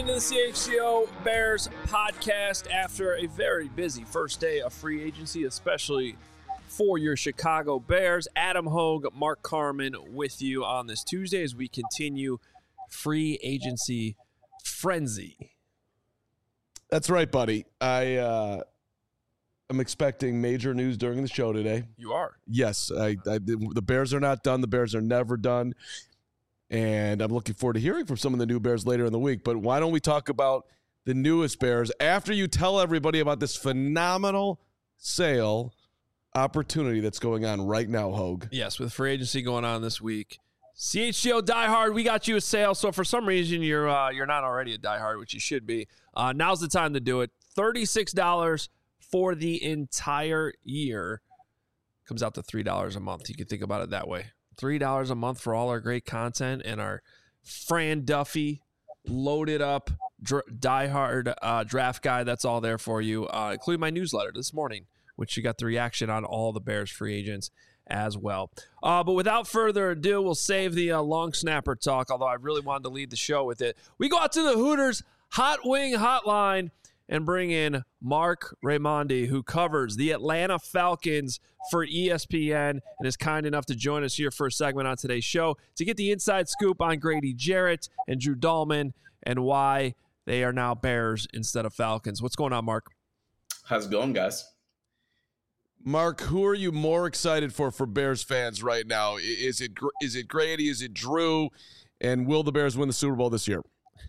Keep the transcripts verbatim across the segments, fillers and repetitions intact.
into the C H C O Bears podcast after a very busy first day of free agency, especially for your Chicago Bears. Adam Hogue, Mark Carman with you on this Tuesday as we continue free agency frenzy. That's right, buddy. I uh, am expecting major news during the show today. You are? Yes. I, I, the Bears are not done. The Bears are never done. And I'm looking forward to hearing from some of the new Bears later in the week. But why don't we talk about the newest Bears after you tell everybody about this phenomenal sale opportunity that's going on right now, Hogue? Yes, with free agency going on this week. C H C O diehard, we got you a sale. So for some reason you're uh, you're not already a diehard, which you should be. Uh, now's the time to do it. thirty-six dollars for the entire year. Comes out to three dollars a month. You can think about it that way. three dollars a month for all our great content and our Fran Duffy loaded up dr- diehard uh, draft guide. That's all there for you, uh, including my newsletter this morning, which you got the reaction on all the Bears free agents as well. Uh, but without further ado, we'll save the uh, long snapper talk, although I really wanted to lead the show with it. We go out to the Hooters Hot Wing Hotline and bring in Mark Raimondi, who covers the Atlanta Falcons for E S P N and is kind enough to join us here for a segment on today's show to get the inside scoop on Grady Jarrett and Drew Dalman and why they are now Bears instead of Falcons. What's going on, Mark? How's it going, guys? Mark, who are you more excited for for Bears fans right now? Is it is it Grady? Is it Drew? And will the Bears win the Super Bowl this year?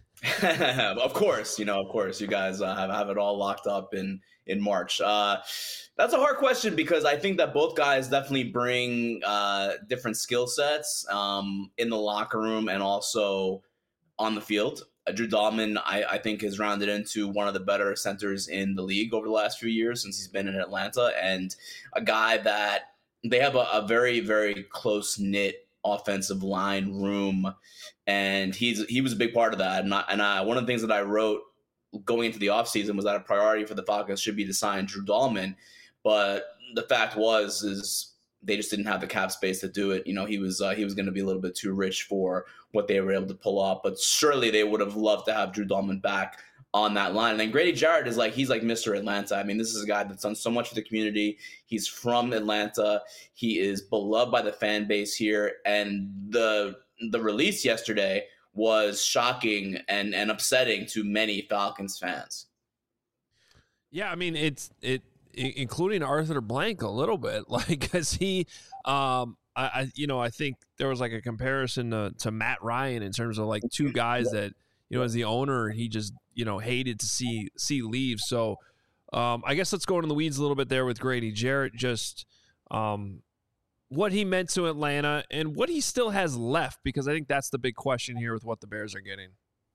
Of course, you know, of course, you guys uh, have, have it all locked up in, in March. Uh, that's a hard question because I think that both guys definitely bring uh, different skill sets um, in the locker room and also on the field. Uh, Drew Dalman, I, I think, has rounded into one of the better centers in the league over the last few years since he's been in Atlanta, and a guy that they have a, a very, very close-knit offensive line room, and he's he was a big part of that. And, I, and I, one of the things that I wrote going into the offseason was that a priority for the Falcons should be to sign Drew Dalman, but the fact was is they just didn't have the cap space to do it. You know, he was uh, he was going to be a little bit too rich for what they were able to pull off, but surely they would have loved to have Drew Dalman back on that line. And then Grady Jarrett is like, he's like Mister Atlanta. I mean, this is a guy that's done so much for the community. He's from Atlanta. He is beloved by the fan base here. And the the release yesterday was shocking and, and upsetting to many Falcons fans. Yeah, I mean, it's it including Arthur Blank a little bit, like, because he, um, I, I, you know, I think there was like a comparison to, to Matt Ryan in terms of like two guys that, you know, as the owner, he just, you know, hated to see see leave. So um, I guess let's go into the weeds a little bit there with Grady Jarrett, just um, what he meant to Atlanta and what he still has left, because I think that's the big question here with what the Bears are getting.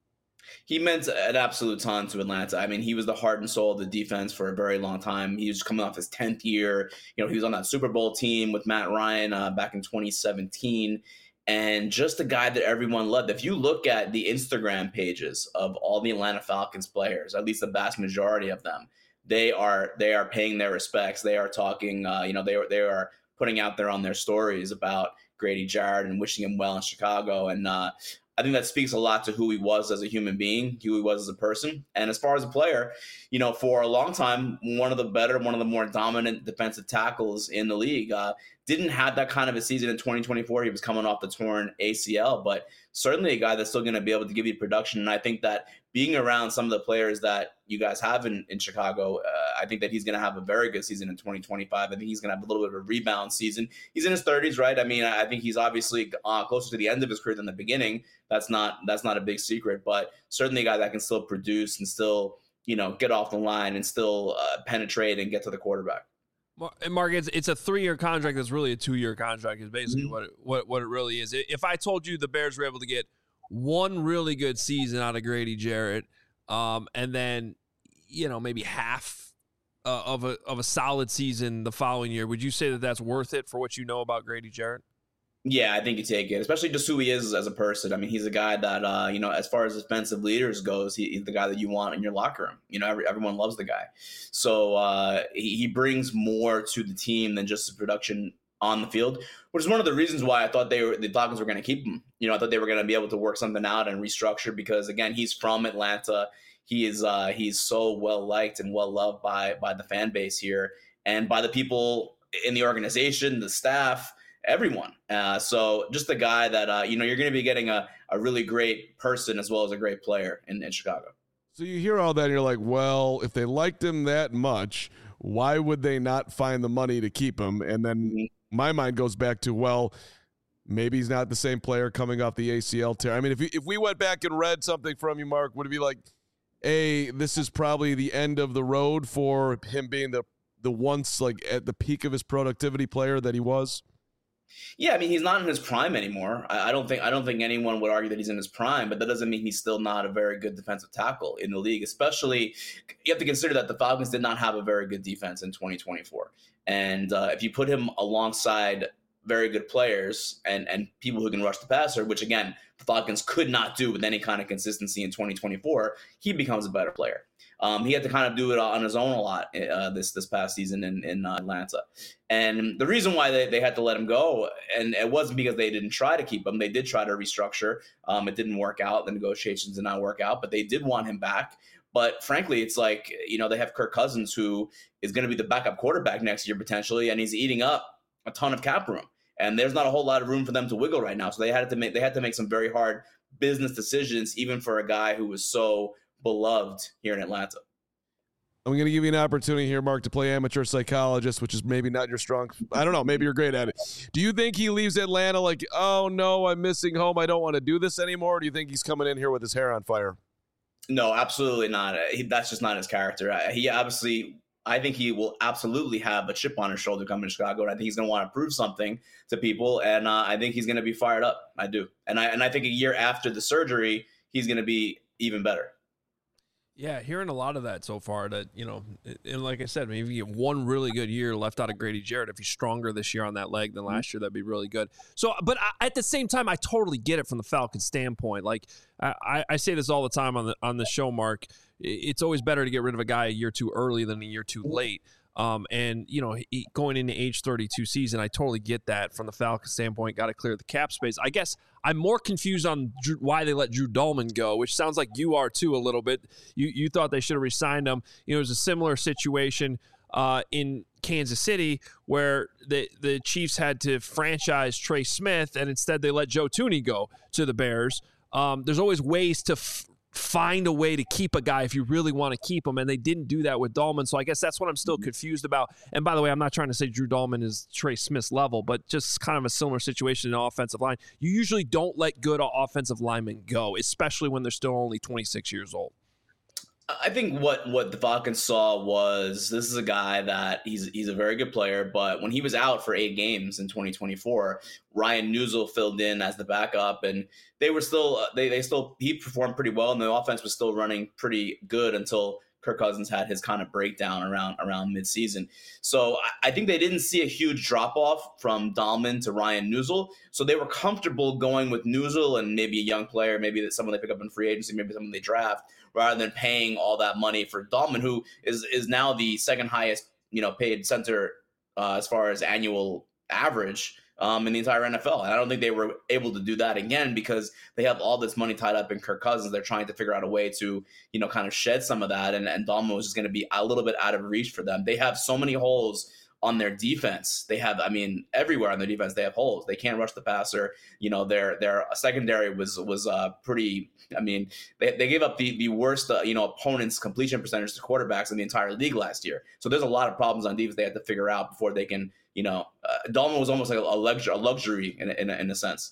He meant an absolute ton to Atlanta. I mean, he was the heart and soul of the defense for a very long time. He was coming off his tenth year. You know, he was on that Super Bowl team with Matt Ryan uh, back in twenty seventeen. And just a guy that everyone loved. If you look at the Instagram pages of all the Atlanta Falcons players, at least the vast majority of them, they are they are paying their respects. They are talking, uh, you know, they are, they are putting out there on their stories about Grady Jarrett and wishing him well in Chicago. And uh, I think that speaks a lot to who he was as a human being, who he was as a person. And as far as a player, you know, for a long time, one of the better, one of the more dominant defensive tackles in the league. Uh, didn't have that kind of a season in twenty twenty-four. He was coming off the torn A C L, but certainly a guy that's still going to be able to give you production. And I think that being around some of the players that you guys have in, in Chicago, uh, I think that he's going to have a very good season in twenty twenty-five. I think he's going to have a little bit of a rebound season. He's in his thirties, right? I mean, I think he's obviously uh, closer to the end of his career than the beginning. That's not that's not a big secret, but certainly a guy that can still produce and still, you know, get off the line and still uh, penetrate and get to the quarterback. And Mark, it's, it's a three-year contract that's really a two-year contract is basically Mm-hmm. what, it, what what it really is. If I told you the Bears were able to get one really good season out of Grady Jarrett, um, and then, you know, maybe half uh, of a of a solid season the following year, would you say that that's worth it for what you know about Grady Jarrett? Yeah, I think you take it, especially just who he is as a person. I mean, he's a guy that, uh, you know, as far as defensive leaders goes, he, he's the guy that you want in your locker room. You know, every, everyone loves the guy. So uh, he, he brings more to the team than just the production on the field, which is one of the reasons why I thought they were the Falcons were going to keep him. You know, I thought they were going to be able to work something out and restructure because, again, he's from Atlanta. He is uh, he's so well liked and well loved by by the fan base here and by the people in the organization, the staff, everyone. Uh, so just a guy that uh, you know you're going to be getting a, a really great person as well as a great player in, in Chicago. So you hear all that and you're like, well, if they liked him that much, why would they not find the money to keep him? And then mm-hmm. my mind goes back to, well, maybe he's not the same player coming off the A C L tear. I mean, if we, if we went back and read something from you, Mark, would it be like, A, this is probably the end of the road for him being the, the once like at the peak of his productivity player that he was? Yeah, I mean, he's not in his prime anymore. I, I don't think I don't think anyone would argue that he's in his prime, but that doesn't mean he's still not a very good defensive tackle in the league. Especially, you have to consider that the Falcons did not have a very good defense in twenty twenty-four, and uh, if you put him alongside very good players and and people who can rush the passer, which again the Falcons could not do with any kind of consistency in twenty twenty-four, he becomes a better player. Um, he had to kind of do it on his own a lot uh, this this past season in, in uh, Atlanta. And the reason why they, they had to let him go, and it wasn't because they didn't try to keep him. They did try to restructure. Um, it didn't work out. The negotiations did not work out, but they did want him back. But frankly, it's like, you know, they have Kirk Cousins, who is going to be the backup quarterback next year potentially, and he's eating up a ton of cap room. And there's not a whole lot of room for them to wiggle right now. So they had to make they had to make some very hard business decisions, even for a guy who was so beloved here in Atlanta. I'm going to give you an opportunity here, Mark, to play amateur psychologist, which is maybe not your strong. I don't know. Maybe you're great at it. Do you think he leaves Atlanta like, oh, no, I'm missing home. I don't want to do this anymore? Or do you think he's coming in here with his hair on fire? No, absolutely not. He, that's just not his character. He obviously, I think he will absolutely have a chip on his shoulder coming to Chicago. And I think he's going to want to prove something to people. And uh, I think he's going to be fired up. I do. And I, and I think a year after the surgery, he's going to be even better. Yeah, hearing a lot of that so far that, you know, and like I said, maybe you get one really good year left out of Grady Jarrett. If he's stronger this year on that leg than last year, that'd be really good. So, but I, at the same time, I totally get it from the Falcons standpoint. Like I, I say this all the time on the, on the show, Mark, it's always better to get rid of a guy a year too early than a year too late. Um, and, you know, he, going into age thirty-two season, I totally get that from the Falcons standpoint. Got to clear the cap space. I guess I'm more confused on Drew, why they let Drew Dahlman go, which sounds like you are too a little bit. You you thought they should have re-signed him. You know, it was a similar situation uh, in Kansas City where the the Chiefs had to franchise Trey Smith, and instead they let Joe Thuney go to the Bears. Um, there's always ways to f- find a way to keep a guy if you really want to keep him, and they didn't do that with Dahlman. So I guess that's what I'm still confused about. And by the way, I'm not trying to say Drew Dahlman is Trey Smith's level, but just kind of a similar situation in the offensive line. You usually don't let good offensive linemen go, especially when they're still only twenty-six years old. I think what, what the Falcons saw was this is a guy that he's he's a very good player, but when he was out for eight games in twenty twenty-four, Ryan Newsel filled in as the backup, and they were still they they still he performed pretty well, and the offense was still running pretty good until Kirk Cousins had his kind of breakdown around around midseason. So I, I think they didn't see a huge drop off from Dahlman to Ryan Newsel, so they were comfortable going with Newsel and maybe a young player, maybe that someone they pick up in free agency, maybe someone they draft, rather than paying all that money for Dahlman, who is is now the second highest, you know, paid center uh, as far as annual average um, in the entire N F L. And I don't think they were able to do that again because they have all this money tied up in Kirk Cousins. They're trying to figure out a way to, you know, kind of shed some of that. And, and Dahlman was just going to be a little bit out of reach for them. They have so many holes on their defense. They have, I mean, everywhere on their defense, they have holes. They can't rush the passer. You know, their their secondary was was uh, pretty, I mean, they, they gave up the, the worst, uh, you know, opponent's completion percentage to quarterbacks in the entire league last year. So there's a lot of problems on defense they had to figure out before they can, you know, uh, Dahlman was almost like a, a luxury, a luxury in a, in, a, in a sense.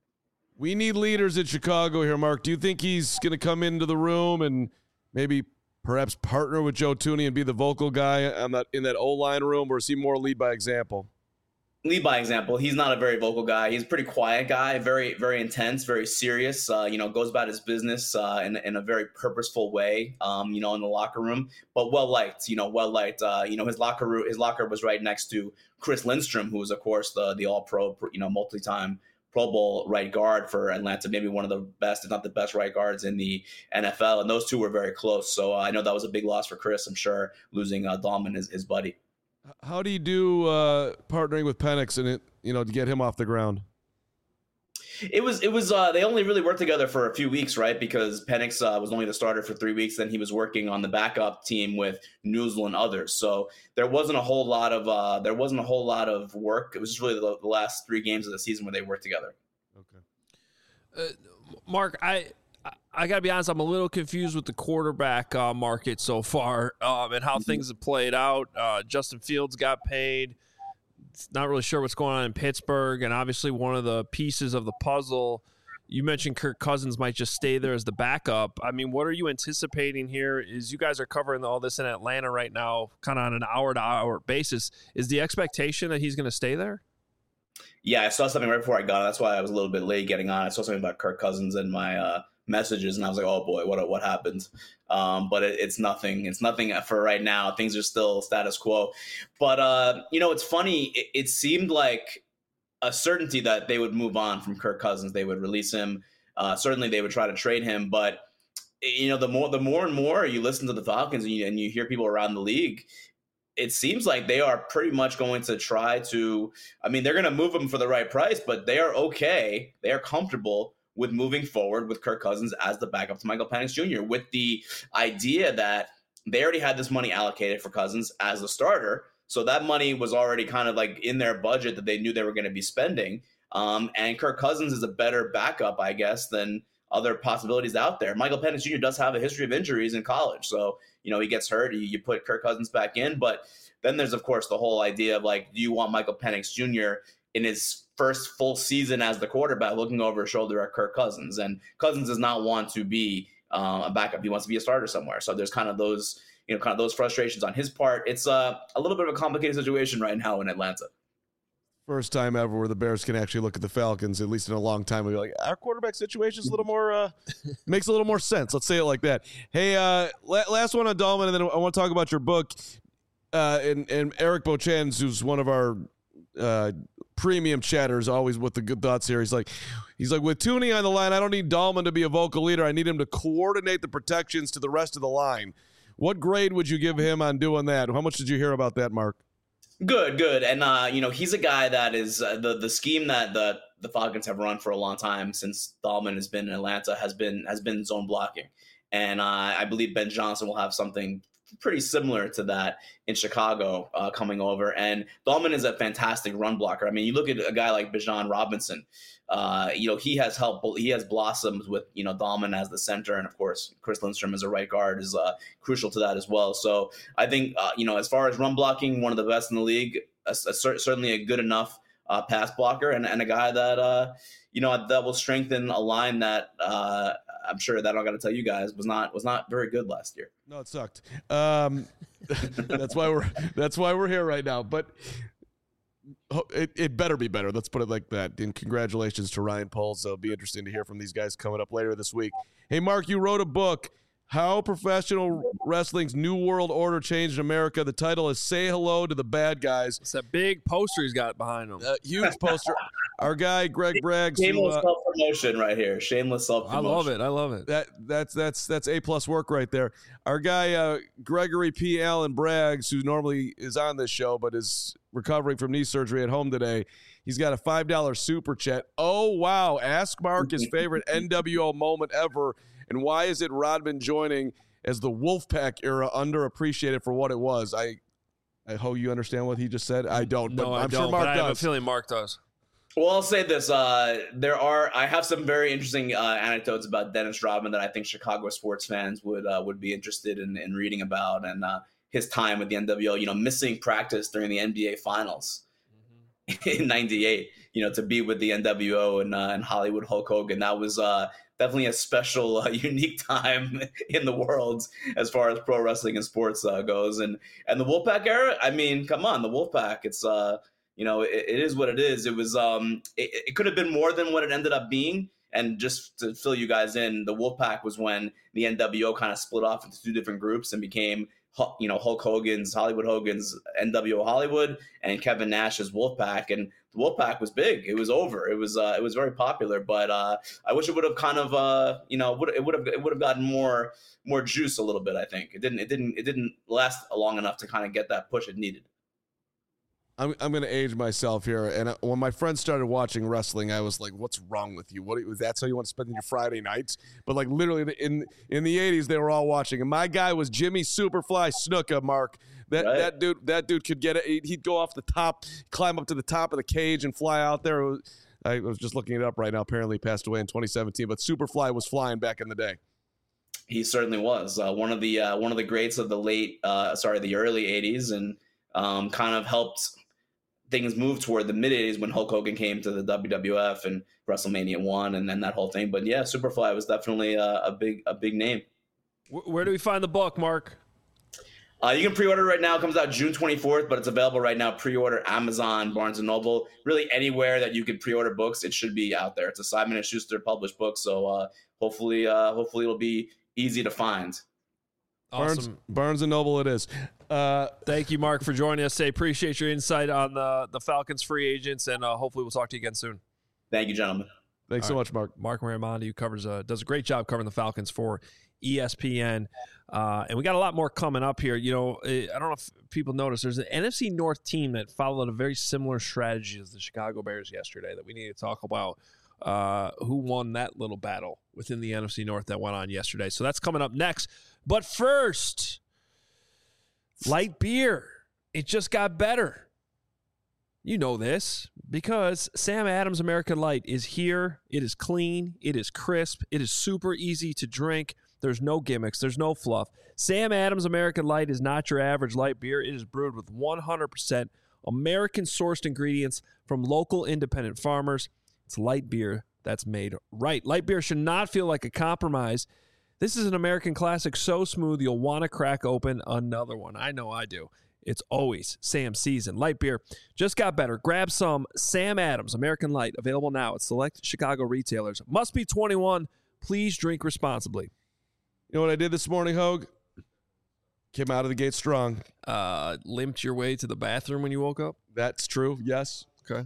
We need leaders in Chicago here, Mark. Do you think he's going to come into the room and maybe perhaps partner with Joe Thuney and be the vocal guy on that in that O-line room, or is he more lead by example? Lead by example. He's not a very vocal guy. He's a pretty quiet guy, very, very intense, very serious, uh, you know, goes about his business uh, in, in a very purposeful way, um, you know, in the locker room, but well-liked, you know, well-liked. Uh, you know, his locker room, his locker was right next to Chris Lindstrom, who was, of course, the the all-pro, you know, multi-time Pro Bowl right guard for Atlanta, maybe one of the best, if not the best right guards in the N F L. And those two were very close. So uh, I know that was a big loss for Chris, I'm sure, losing uh, Dahlman, his, his buddy. How do you do uh, partnering with Penix and it, you know, to get him off the ground? It was it was uh, they only really worked together for a few weeks, right? Because Penix uh, was only the starter for three weeks. Then he was working on the backup team with Newsel and others. So there wasn't a whole lot of uh, there wasn't a whole lot of work. It was just really the, the last three games of the season where they worked together. Okay, uh, Mark, I. I got to be honest, I'm a little confused with the quarterback uh, market so far um, and how things have played out. Uh, Justin Fields got paid. Not really sure what's going on in Pittsburgh. And obviously one of the pieces of the puzzle, you mentioned Kirk Cousins might just stay there as the backup. I mean, what are you anticipating here? Is you guys are covering all this in Atlanta right now, kind of on an hour-to-hour basis. Is the expectation that he's going to stay there? Yeah, I saw something right before I got on. That's why I was a little bit late getting on. I saw something about Kirk Cousins in my uh, – messages, and I was like, oh boy, what what happened? Um, but it, it's nothing. It's nothing for right now. Things are still status quo. But uh, you know, it's funny. It, it seemed like a certainty that they would move on from Kirk Cousins. They would release him. Uh, certainly, they would try to trade him. But you know, the more the more and more you listen to the Falcons and you, and you hear people around the league, it seems like they are pretty much going to try to. I mean, they're going to move him for the right price, but they are okay. They are comfortable with moving forward with Kirk Cousins as the backup to Michael Penix Junior with the idea that they already had this money allocated for Cousins as the starter. So that money was already kind of like in their budget that they knew they were going to be spending. Um, and Kirk Cousins is a better backup, I guess, than other possibilities out there. Michael Penix Junior does have a history of injuries in college. So, you know, he gets hurt, you, you put Kirk Cousins back in. But then there's, of course, the whole idea of like, do you want Michael Penix Junior in his first full season as the quarterback looking over his shoulder at Kirk Cousins? And Cousins does not want to be uh, a backup. He wants to be a starter somewhere. So there's kind of those, you know, kind of those frustrations on his part. It's uh, a little bit of a complicated situation right now in Atlanta. First time ever where the Bears can actually look at the Falcons, at least in a long time, and be like, our quarterback situation is a little more, uh, makes a little more sense. Let's say it like that. Hey, uh, last one on Dahlman, and then I want to talk about your book. Uh, and, and Eric Beauchamp, who's one of our uh, premium chatters, always with the good thoughts here. He's like, he's like, with Tooney on the line, I don't need Dahlman to be a vocal leader. I need him to coordinate the protections to the rest of the line. What grade would you give him on doing that? How much did you hear about that, Mark? Good, good. And, uh, you know, he's a guy that is uh, the, the scheme that the, the Falcons have run for a long time since Dahlman has been in Atlanta has been, has been zone blocking. And uh, I believe Ben Johnson will have something pretty similar to that in Chicago uh, coming over. And Dahlman is a fantastic run blocker. I mean, you look at a guy like Bijan Robinson, uh, you know, he has helped, he has blossomed with, you know, Dahlman as the center. And of course, Chris Lindstrom as a right guard is uh, crucial to that as well. So I think, uh, you know, as far as run blocking, one of the best in the league, a, a, certainly a good enough uh, pass blocker and, and a guy that, uh, you know, that will strengthen a line that uh, I'm sure that I got to tell you guys was not was not very good last year. No, it sucked. Um, that's why we're that's why we're here right now. But it, it better be better. Let's put it like that. And congratulations to Ryan Poles. It'll be interesting to hear from these guys coming up later this week. Hey, Mark, you wrote a book, How Professional Wrestling's New World Order Changed America. The title is Say Hello to the Bad Guys. It's that big poster he's got behind him. Uh, huge poster. Our guy, Greg Braggs. Shameless who, uh, self-promotion right here. Shameless self-promotion. I love it. I love it. That that's that's that's A plus work right there. Our guy uh, Gregory P. Allen Braggs, who normally is on this show but is recovering from knee surgery at home today. He's got a five dollar super chat. Oh wow! Ask Mark his favorite N W O moment ever, and why is it Rodman joining as the Wolfpack era underappreciated for what it was? I I hope you understand what he just said. I don't, no, but I I'm don't, sure Mark but I does. have a feeling Mark does. Well, I'll say this. Uh, there are I have some very interesting uh, anecdotes about Dennis Rodman that I think Chicago sports fans would uh, would be interested in, in reading about, and uh, his time with the N W O. You know, missing practice during the N B A Finals mm-hmm. in ninety-eight. You know, to be with the N W O and, uh, and Hollywood Hulk Hogan. That was uh, definitely a special, uh, unique time in the world as far as pro wrestling and sports uh, goes. And and the Wolfpack era. I mean, come on, the Wolfpack. It's uh. You know, it, it is what it is. It was, um, it, it could have been more than what it ended up being. And just to fill you guys in, the Wolfpack was when the N W O kind of split off into two different groups and became, you know, Hulk Hogan's, Hollywood Hogan's N W O Hollywood and Kevin Nash's Wolfpack. And the Wolfpack was big. It was over. It was, uh, it was very popular. But uh, I wish it would have kind of, uh, you know, would it would have it would have gotten more more juice a little bit. I think it didn't. It didn't. It didn't last long enough to kind of get that push it needed. I'm I'm gonna age myself here. And I, when my friends started watching wrestling, I was like, "What's wrong with you? What? do you- That's how you want to spend your Friday nights?" But like literally in in the eighties, they were all watching. And my guy was Jimmy Superfly Snuka. Mark, that Right. that dude that dude could get it. He'd go off the top, climb up to the top of the cage, and fly out there. It was, I was just looking it up right now. Apparently, he passed away in twenty seventeen. But Superfly was flying back in the day. He certainly was uh, one of the uh, one of the greats of the late, uh, sorry, the early eighties, and um, kind of helped things move toward the mid eighties when Hulk Hogan came to the W W F and WrestleMania one, and then that whole thing. But yeah, Superfly was definitely a, a big a big name. Where do we find the book, Mark? Uh, you can pre-order right now. It comes out June twenty-fourth, but it's available right now. Pre-order Amazon, Barnes and Noble, really anywhere that you can pre-order books. It should be out there. It's a Simon and Schuster published book, so uh, hopefully, uh, hopefully it'll be easy to find. Awesome. Barnes, Barnes and Noble, it is. Uh, Thank you, Mark, for joining us today. Appreciate your insight on the the Falcons free agents, and uh, hopefully we'll talk to you again soon. Thank you, gentlemen. thanks All so right. much, Mark. Mark Raimondi, who covers uh, does a great job covering the Falcons for E S P N, uh, and we got a lot more coming up here. You know, I don't know if people noticed, there's an N F C North team that followed a very similar strategy as the Chicago Bears yesterday that we need to talk about. Uh, who won that little battle within the N F C North that went on yesterday? So that's coming up next. But first, light beer. It just got better. You know this because Sam Adams American Light is here. It is clean. It is crisp. It is super easy to drink. There's no gimmicks. There's no fluff. Sam Adams American Light is not your average light beer. It is brewed with one hundred percent American-sourced ingredients from local independent farmers. It's light beer that's made right. Light beer should not feel like a compromise. This is an American classic so smooth you'll want to crack open another one. I know I do. It's always Sam season. Light beer just got better. Grab some Sam Adams American Light, available now at select Chicago retailers. Must be twenty-one. Please drink responsibly. You know what I did this morning, Hogue? Came out of the gate strong. Uh, limped your way to the bathroom when you woke up? That's true. Yes. Okay.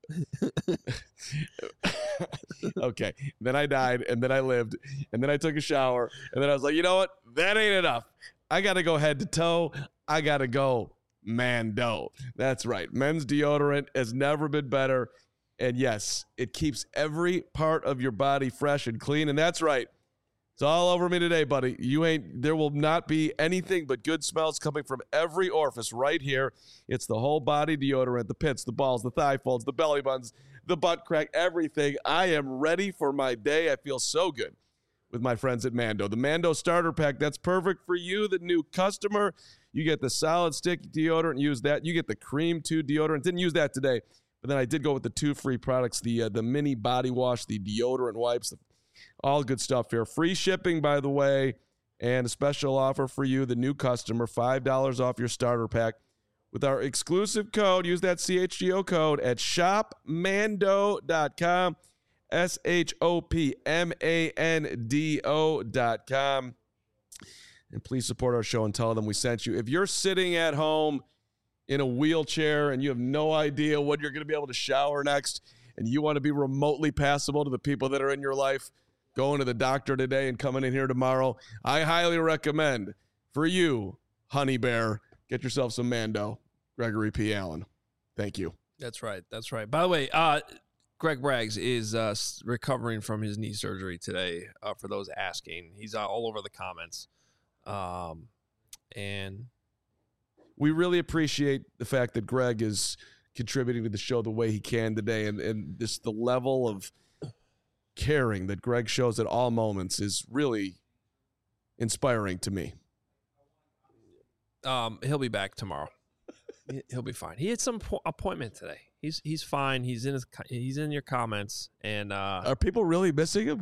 Okay. Then I died, and then I lived, and then I took a shower, and then I was like, you know what? That ain't enough. I got to go head to toe. I got to go Mando. That's right. Men's deodorant has never been better. And yes, it keeps every part of your body fresh and clean. And that's right. It's all over me today, buddy. You ain't, there will not be anything but good smells coming from every orifice right here. It's the whole body deodorant, the pits, the balls, the thigh folds, the belly buttons, the butt crack, everything. I am ready for my day. I feel so good with my friends at Mando. The Mando starter pack, that's perfect for you, the new customer. You get the solid stick deodorant, use that. You get the cream two deodorant. Didn't use that today, but then I did go with the two free products, the uh, the mini body wash, the deodorant wipes, the all good stuff here. Free shipping, by the way, and a special offer for you, the new customer, five dollars off your starter pack with our exclusive code. Use that C H G O code at shop mando dot com, S H O P M A N D O dot com. And please support our show and tell them we sent you. If you're sitting at home in a wheelchair and you have no idea when you're going to be able to shower next, and you want to be remotely passable to the people that are in your life, going to the doctor today and coming in here tomorrow, I highly recommend for you, Honey Bear, get yourself some Mando. Gregory P. Allen. Thank you. That's right. That's right. By the way, uh, Greg Braggs is uh, recovering from his knee surgery today, uh, for those asking. He's uh, all over the comments. Um, and we really appreciate the fact that Greg is contributing to the show the way he can today. And, and this, the level of caring that Greg shows at all moments is really inspiring to me. Um, he'll be back tomorrow. He'll be fine. He had some po- appointment today. He's he's fine. He's in his he's in your comments. And uh, are people really missing him?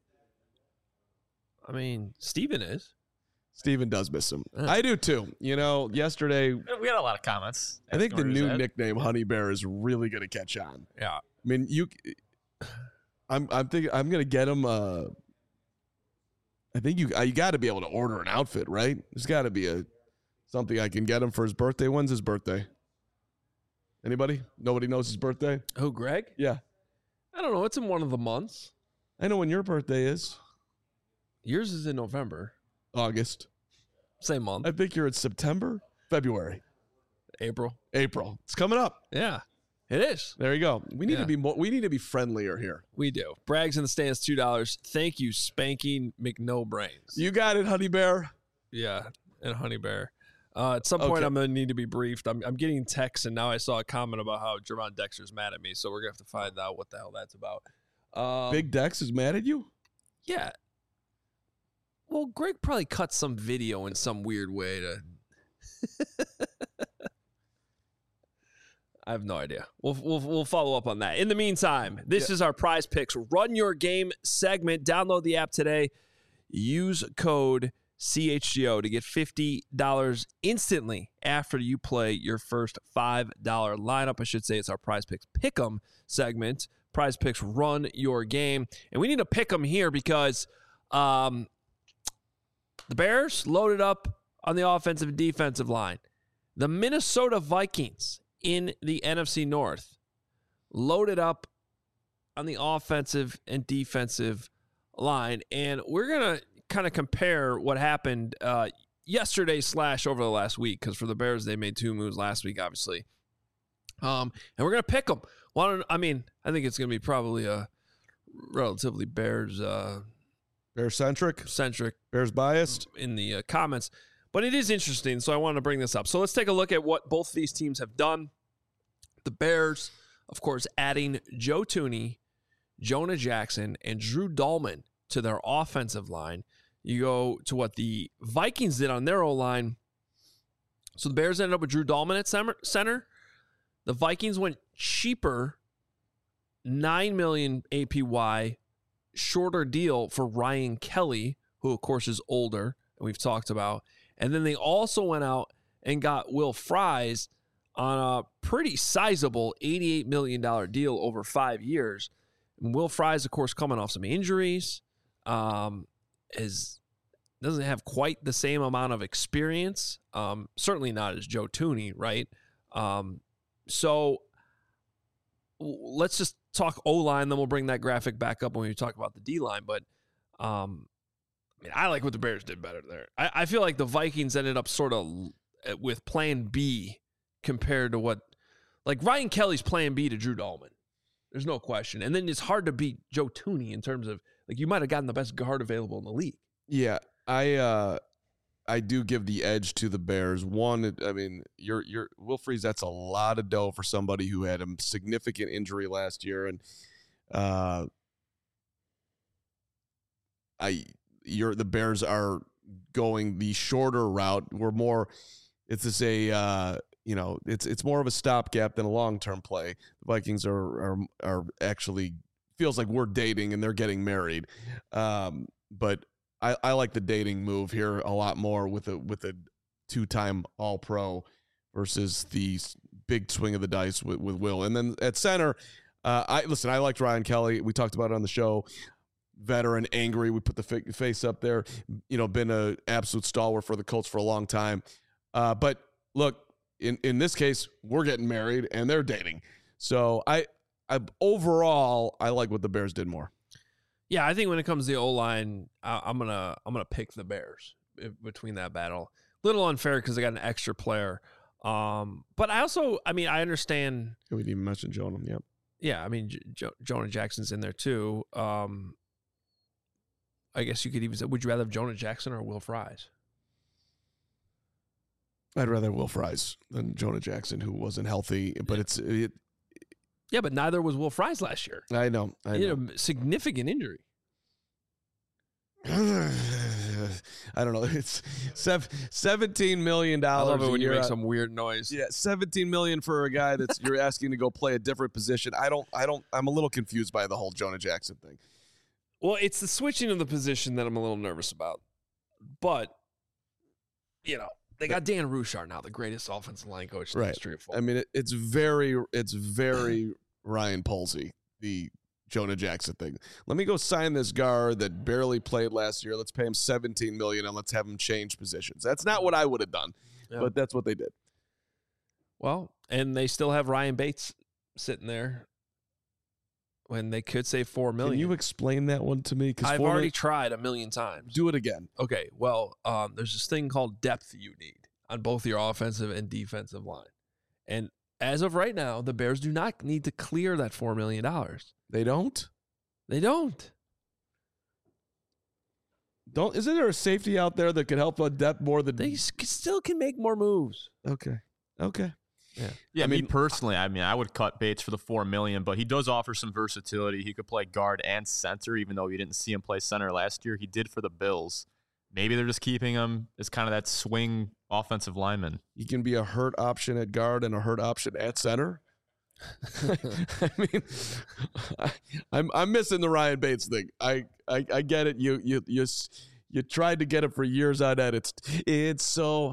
I mean, Steven is. Steven does miss him. Uh, I do too. You know, yesterday we had a lot of comments. I think the new that. nickname Honey Bear is really going to catch on. Yeah. I mean, you. I'm I'm thinking I'm going to get him. Uh, I think you you got to be able to order an outfit, right? There's got to be a something I can get him for his birthday. When's his birthday? Anybody? Nobody knows his birthday? Who, Greg? Yeah. I don't know. It's in one of the months. I know when your birthday is. Yours is in November. August. Same month. I think you're in September, February. April. April. It's coming up. Yeah, it is. There you go. We need Yeah. to be more. We need to be friendlier here. We do. Braggs in the stands, two dollars. Thank you, Spanking McNobrains. You got it, Honey Bear. Yeah, and Honey Bear. Uh, at some point, Okay. I'm going to need to be briefed. I'm, I'm getting texts, and now I saw a comment about how Jerron Dexter's mad at me, so we're going to have to find out what the hell that's about. Um, Big Dex is mad at you. Yeah. Well, Greg probably cut some video in some weird way to... I have no idea. We'll, we'll, we'll follow up on that. In the meantime, this Yeah. is our Prize Picks Run Your Game segment. Download the app today. Use code C H G O to get fifty dollars instantly after you play your first five dollar lineup. I should say it's our Prize Picks Pick'em segment. Prize Picks Run Your Game. And we need to pick them here because um, the Bears loaded up on the offensive and defensive line. The Minnesota Vikings in the N F C North loaded up on the offensive and defensive line. And we're going to kind of compare what happened uh, yesterday slash over the last week, because for the Bears, they made two moves last week, obviously. Um, and we're going to pick them. Well, I mean, I think it's going to be probably a relatively Bears uh, Bears centric. centric Bears biased. in the uh, comments. But it is interesting, so I wanted to bring this up. So let's take a look at what both of these teams have done. The Bears, of course, adding Joe Thuney, Jonah Jackson, and Drew Dahlman to their offensive line. You go to what the Vikings did on their O-line. So the Bears ended up with Drew Dahlman at center. The Vikings went cheaper, nine million dollars A P Y, shorter deal for Ryan Kelly, who, of course, is older, and we've talked about. And then they also went out and got Will Fries on a pretty sizable eighty-eight million dollars deal over five years. And Will Fries, of course, coming off some injuries, um, is doesn't have quite the same amount of experience. Um, certainly not as Joe Thuney, right? Um, so w- let's just talk O-line, then we'll bring that graphic back up when we talk about the D-line. But um, I mean, I like what the Bears did better there. I, I feel like the Vikings ended up sort of with plan B compared to what, like Ryan Kelly's plan B to Drew Dahlman. There's no question. And then it's hard to beat Joe Thuney in terms of, like, you might have gotten the best guard available in the league. Yeah, I uh, I do give the edge to the Bears. One, I mean, you're you're Will Fries. That's a lot of dough for somebody who had a significant injury last year, and uh, I you're the Bears are going the shorter route. We're more. It's just a uh, you know, it's it's more of a stopgap than a long term play. The Vikings are are are actually feels like we're dating and they're getting married, um, but. I, I like the dating move here a lot more with a with a two-time All-Pro versus the big swing of the dice with, with Will. And then at center, uh, I listen. I liked Ryan Kelly. We talked about it on the show. Veteran, angry. We put the fa- face up there. You know, been an absolute stalwart for the Colts for a long time. Uh, but look, in in this case, we're getting married and they're dating. So I, I overall, I like what the Bears did more. Yeah, I think when it comes to the O-line, I, I'm gonna I'm gonna pick the Bears if, between that battle. A little unfair because they got an extra player, um, but I also, I mean, I understand. We didn't even mention Jonah. Yep. Yeah, I mean, J- jo- Jonah Jackson's in there too. Um, I guess you could even say, would you rather have Jonah Jackson or Will Fries? I'd rather Will Fries than Jonah Jackson, who wasn't healthy. But Yeah. it's it, Yeah, but neither was Will Fries last year. I know. I He know. had a significant injury. I don't know. It's sev- seventeen million I dollars. love it when you make out. some weird noise. Yeah, seventeen million for a guy that's you're asking to go play a different position. I don't. I don't. I'm a little confused by the whole Jonah Jackson thing. Well, it's the switching of the position that I'm a little nervous about. But, you know, they got Dan Roushar now, the greatest offensive line coach in the Right. history of football. I mean, it, it's very. It's very Ryan Polsey, the Jonah Jackson thing. Let me go sign this guard that barely played last year. Let's pay him seventeen million dollars and let's have him change positions. That's not what I would have done, Yeah. but that's what they did. Well, and they still have Ryan Bates sitting there when they could save four million. Can you explain that one to me? I've already tried a million times. do it again. Okay, well, um, there's this thing called depth you need on both your offensive and defensive line. And as of right now, the Bears do not need to clear that four million dollars. They don't? They don't. Don't. Isn't there a safety out there that could help on depth more than They s- still can make more moves. Okay. Okay. Yeah. Yeah, I me mean- personally, I mean, I would cut Bates for the four million, but he does offer some versatility. He could play guard and center, even though we didn't see him play center last year. He did for the Bills. Maybe they're just keeping him as kind of that swing offensive lineman. He can be a hurt option at guard and a hurt option at center. I mean, I, I'm I'm missing the Ryan Bates thing. I, I I get it. You you you s- you tried to get it for years on end. It's it's so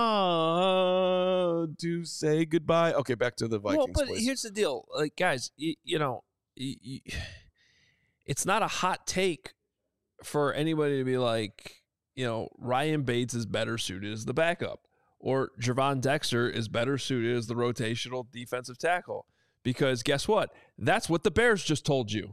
hard to say goodbye. Okay, back to the Vikings. Well, but please. here's the deal, like guys, you, you know, y y it's not a hot take for anybody to be like, you know, Ryan Bates is better suited as the backup, or Gervon Dexter is better suited as the rotational defensive tackle. Because guess what? That's what the Bears just told you.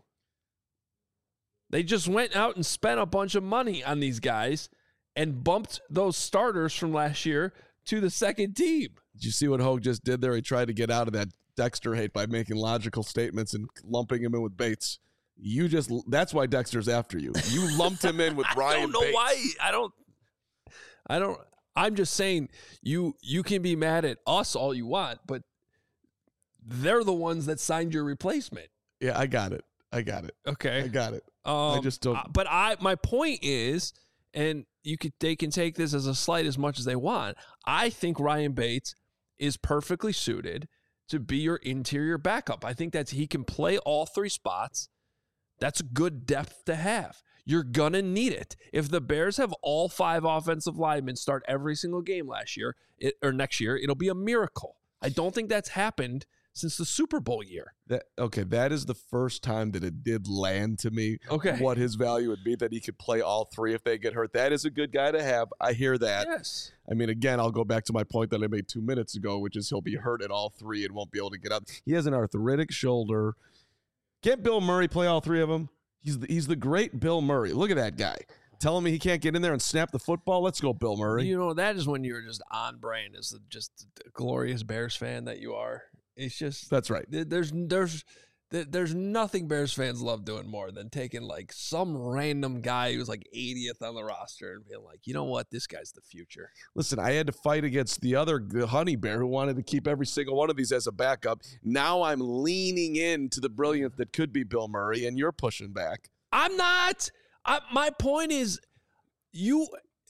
They just went out and spent a bunch of money on these guys and bumped those starters from last year to the second team. Did you see what Hogue just did there? He tried to get out of that Dexter hate by making logical statements and lumping him in with Bates. You just that's why Dexter's after you. You lumped him in with Ryan I don't know Bates. why. I don't. I don't. I'm just saying you you can be mad at us all you want, but they're the ones that signed your replacement. Yeah, I got it. I got it. Okay, I got it. Um, I just don't- uh, But I, my point is, and you could, they can take this as a slight as much as they want. I think Ryan Bates is perfectly suited to be your interior backup. I think that's he can play all three spots. That's good depth to have. You're gonna need it. If the Bears have all five offensive linemen start every single game last year it, or next year, it'll be a miracle. I don't think that's happened since the Super Bowl year. That, okay, that is the first time that it did land to me. Okay. What his value would be, that he could play all three if they get hurt. That is a good guy to have. I hear that. Yes. I mean, again, I'll go back to my point that I made two minutes ago, which is he'll be hurt at all three and won't be able to get up. He has an arthritic shoulder. Can't Bill Murray play all three of them? He's the, he's the great Bill Murray. Look at that guy. Telling me he can't get in there and snap the football? Let's go, Bill Murray. You know, that is when you're just on brand as the, just the glorious Bears fan that you are. It's just That's right. th- there's there's th- there's nothing Bears fans love doing more than taking like some random guy who's like eightieth on the roster and being like, you know what, this guy's the future. Listen, I had to fight against the other the honey bear who wanted to keep every single one of these as a backup. Now I'm leaning into the brilliance that could be Bill Murray, and you're pushing back. I'm not. I, my point is, you.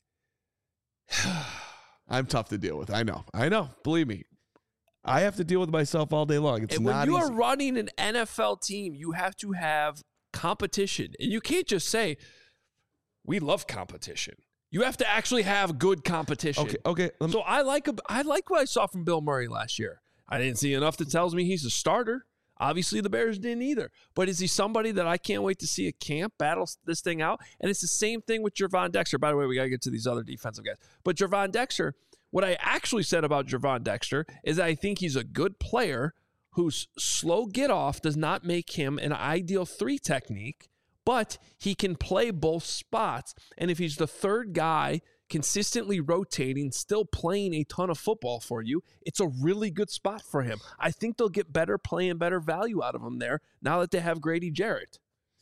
I'm tough to deal with. I know. I know. Believe me. I have to deal with myself all day long. It's And when not you easy. are running an N F L team, you have to have competition. And you can't just say, we love competition. You have to actually have good competition. Okay. Okay. let me- So I like a, I like what I saw from Bill Murray last year. I didn't see enough that tells me he's a starter. Obviously, the Bears didn't either. But is he somebody that I can't wait to see at camp battle this thing out? And it's the same thing with Gervon Dexter. By the way, we got to get to these other defensive guys. But Gervon Dexter, what I actually said about Gervon Dexter is I think he's a good player whose slow get off does not make him an ideal three technique, but he can play both spots. And if he's the third guy consistently rotating, still playing a ton of football for you, it's a really good spot for him. I think they'll get better play and better value out of him there now that they have Grady Jarrett.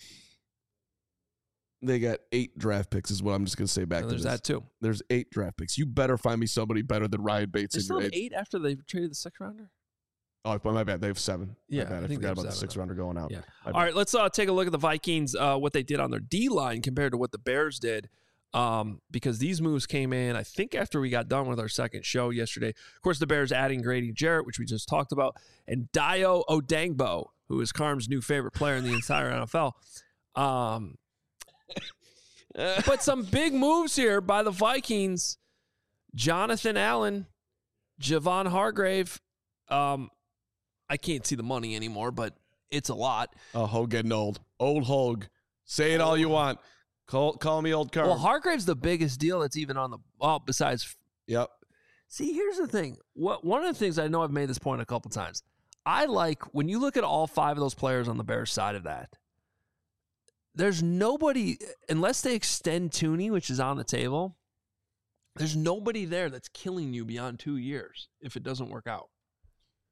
They got eight draft picks is what I'm just going to say back And to there's this. that too. There's eight draft picks. You better find me somebody better than Ryan Bates They in still your have eight. eight after they traded the sixth rounder? Oh, my bad. They have seven. Yeah, my bad. I I, think they forgot have about the seven. six rounder going out. Yeah. My All bad. right, let's uh, take a look at the Vikings, uh, what they did on their D-line compared to what the Bears did, um, because these moves came in, I think, after we got done with our second show yesterday. Of course, the Bears adding Grady Jarrett, which we just talked about, and Dio Odangbo, who is Carm's new favorite player in the entire N F L. Um, but some big moves here by the Vikings. Jonathan Allen, Javon Hargrave. Um, I can't see the money anymore, but it's a lot. Oh, Hogue getting old. Old Hogue. Say it all you want. Call call me old Carm. Well, Hargrave's the biggest deal that's even on the well, besides. Yep. See, here's the thing. What one of the things I know I've made this point a couple times. I like when you look at all five of those players on the Bears side of that. There's nobody unless they extend Tooney, which is on the table. There's nobody there that's killing you beyond two years if it doesn't work out.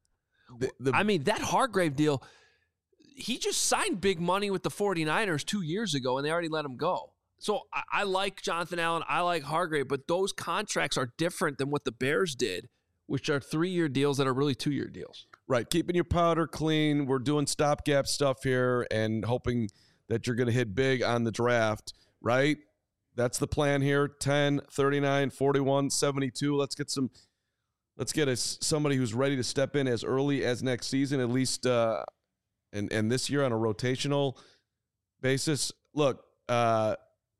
The, the, I mean, that Hargrave deal, he just signed big money with the 49ers two years ago, and they already let him go. So I, I like Jonathan Allen. I like Hargrave, but those contracts are different than what the Bears did, which are three-year deals that are really two-year deals. Right, keeping your powder clean. We're doing stopgap stuff here and hoping that you're going to hit big on the draft, right? That's the plan here. ten, thirty-nine, forty-one, seventy-two. Let's get some let's get us somebody who's ready to step in as early as next season, at least uh, and, and this year on a rotational basis. Look, uh,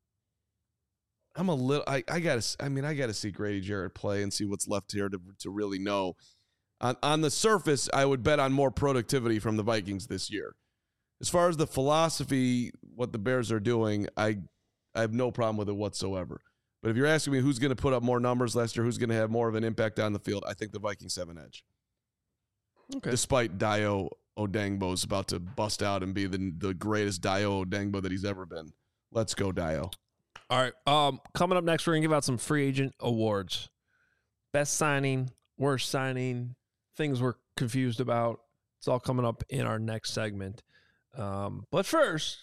I'm a little I, I gotta I mean I gotta see Grady Jarrett play and see what's left here to to really know. On on the surface, I would bet on more productivity from the Vikings this year. As far as the philosophy, what the Bears are doing, I I have no problem with it whatsoever. But if you're asking me who's going to put up more numbers last year, who's going to have more of an impact on the field, I think the Vikings have an edge. Okay. Despite Dio Odengbo's about to bust out and be the the greatest Dio Odengbo that he's ever been. Let's go, Dio. All right. Um, coming up next, we're going to give out some free agent awards. Best signing, worst signing, things we're confused about. It's all coming up in our next segment. Um, but first...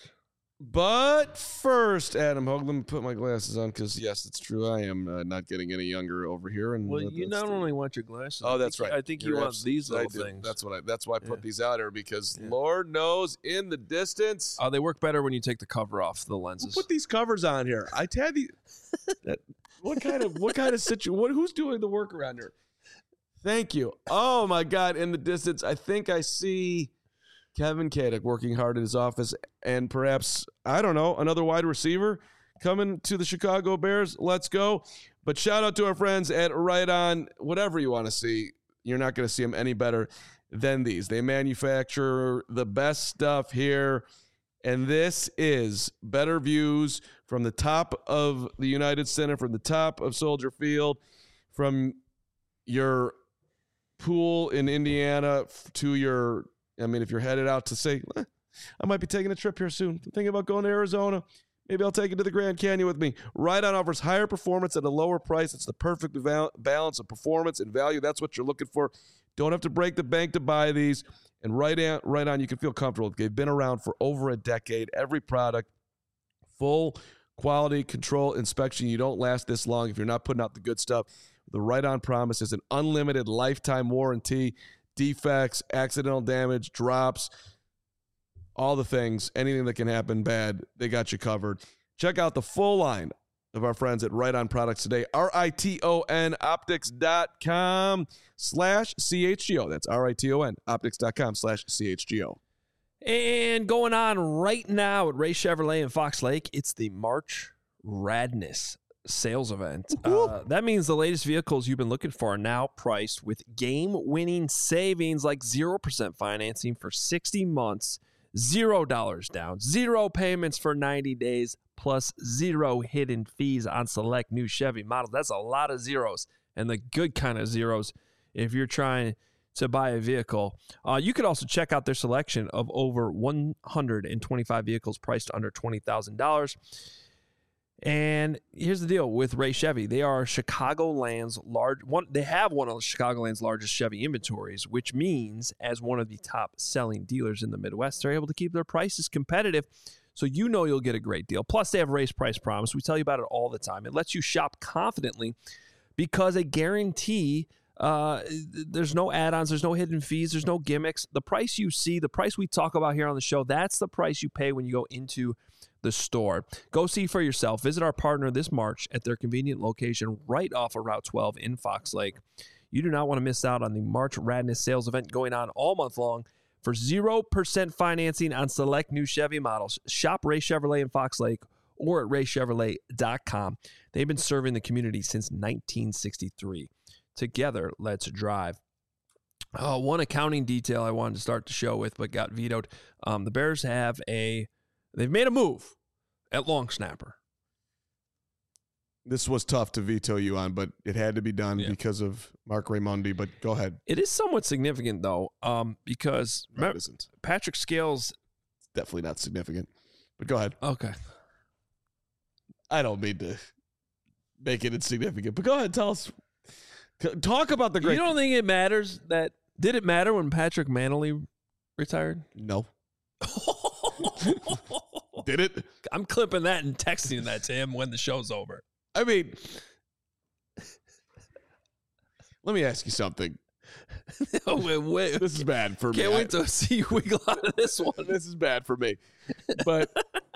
But first, Adam Hogue, let me put my glasses on because, yes, it's true. I am uh, not getting any younger over here. And well, uh, you not the, only want your glasses. Oh, that's I right. I think You're you want abs- these little I do. things. That's what I. That's why I put Yeah. these out here because Yeah. Lord knows in the distance. Oh, they work better when you take the cover off the lenses. Put these covers on here. I had the. that, what kind of what kind of situation? What who's doing the work around here? Thank you. Oh my God! In the distance, I think I see Kevin Kadek working hard in his office, and perhaps, I don't know, another wide receiver coming to the Chicago Bears. Let's go. But shout out to our friends at Right On. Whatever you want to see, you're not going to see them any better than these. They manufacture the best stuff here, and this is better views from the top of the United Center, from the top of Soldier Field, from your pool in Indiana to your... I mean, if you're headed out to say, eh, I might be taking a trip here soon. I'm thinking about going to Arizona. Maybe I'll take it to the Grand Canyon with me. Right On offers higher performance at a lower price. It's the perfect val- balance of performance and value. That's what you're looking for. Don't have to break the bank to buy these. And Right On, right on you can feel comfortable. They've been around for over a decade. Every product, full quality control inspection. You don't last this long if you're not putting out the good stuff. The Right On promise is an unlimited lifetime warranty. Defects, accidental damage, drops, all the things, anything that can happen bad, they got you covered. Check out the full line of our friends at Right On Products today. R I T O N optics.com slash CHGO. That's R I T O N optics.com slash CHGO. And going on right now at Ray Chevrolet in Fox Lake, it's the March Radness sales event. Uh, that means the latest vehicles you've been looking for are now priced with game-winning savings like zero percent financing for sixty months, zero dollars down, zero payments for ninety days, plus zero hidden fees on select new Chevy models. That's a lot of zeros, and the good kind of zeros if you're trying to buy a vehicle. Uh, you could also check out their selection of over one hundred twenty-five vehicles priced under twenty thousand dollars. And here's the deal with Ray Chevy. They are Chicagoland's large one. They have one of Chicagoland's largest Chevy inventories, which means as one of the top selling dealers in the Midwest, they're able to keep their prices competitive. So you know you'll get a great deal. Plus, they have Race Price Promise. We tell you about it all the time. It lets you shop confidently because a guarantee, uh, there's no add-ons, there's no hidden fees, there's no gimmicks. The price you see, the price we talk about here on the show, that's the price you pay when you go into the store. Go see for yourself. Visit our partner this March at their convenient location right off of Route twelve in Fox Lake. You do not want to miss out on the March Radness sales event going on all month long for zero percent financing on select new Chevy models. Shop Ray Chevrolet in Fox Lake or at ray chevrolet dot com. They've been serving the community since nineteen sixty-three. Together, let's drive. Uh, one accounting detail I wanted to start the show with but got vetoed. Um, the Bears have a They've made a move at long snapper. This was tough to veto you on, but it had to be done Yeah. because of Mark Raimondi. But go ahead. It is somewhat significant, though, um, because No, it isn't. Patrick Scales. It's definitely not significant. But go ahead. Okay. I don't mean to make it insignificant, but go ahead. Tell us. Talk about the great. You don't think it matters that Did it matter when Patrick Manley retired? No. Did it? I'm clipping that and texting that to him when the show's over. I mean, let me ask you something. oh, wait, wait. This is bad for Can't me. wait to see you wiggle out of this one. This is bad for me. But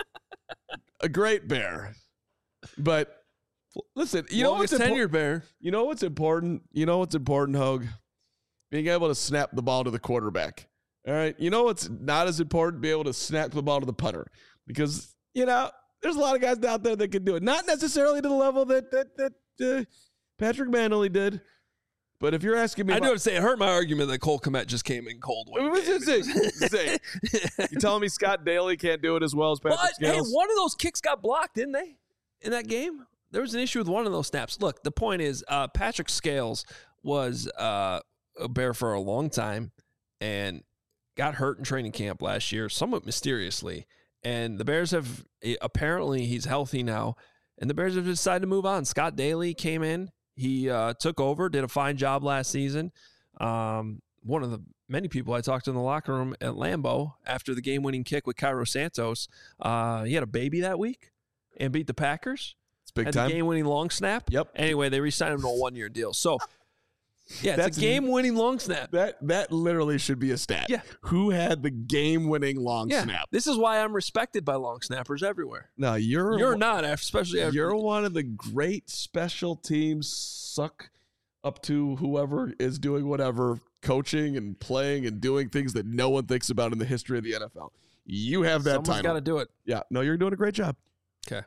a great Bear. But listen, you know what's Longest important? tenured Bear. You know what's important? You know what's important, Hogue? Being able to snap the ball to the quarterback. All right. You know what's not as important? Be able to snap the ball to the punter. Because, you know, there's a lot of guys out there that can do it. Not necessarily to the level that that that uh, Patrick Manley did. But if you're asking me, I about, do have to say, it hurt my argument that Cole Kmet just came in cold. Wait, wait, wait, wait, wait. You telling me Scott Daly can't do it as well as Patrick But, hey, Scales? one of those kicks got blocked, didn't they, in that game? There was an issue with one of those snaps. Look, the point is, uh, Patrick Scales was uh, a Bear for a long time and got hurt in training camp last year, somewhat mysteriously. And the Bears have, apparently he's healthy now, and the Bears have decided to move on. Scott Daly came in. He uh, took over, did a fine job last season. Um, one of the many people I talked to in the locker room at Lambeau after the game-winning kick with Cairo Santos, uh, he had a baby that week and beat the Packers. It's big had time. the game-winning long snap. Yep. Anyway, they re-signed him to a one-year deal. So, yeah, it's That's- a game-winning long snap. That that literally should be a stat. Yeah. Who had the game-winning long Yeah, snap? this is why I'm respected by long snappers everywhere. No, you're You're not, especially after You're one of the great special teams suck up to whoever is doing whatever, coaching and playing and doing things that no one thinks about in the history of the N F L. You have that someone's time. got to do it. Yeah, no, you're doing a great job. Okay.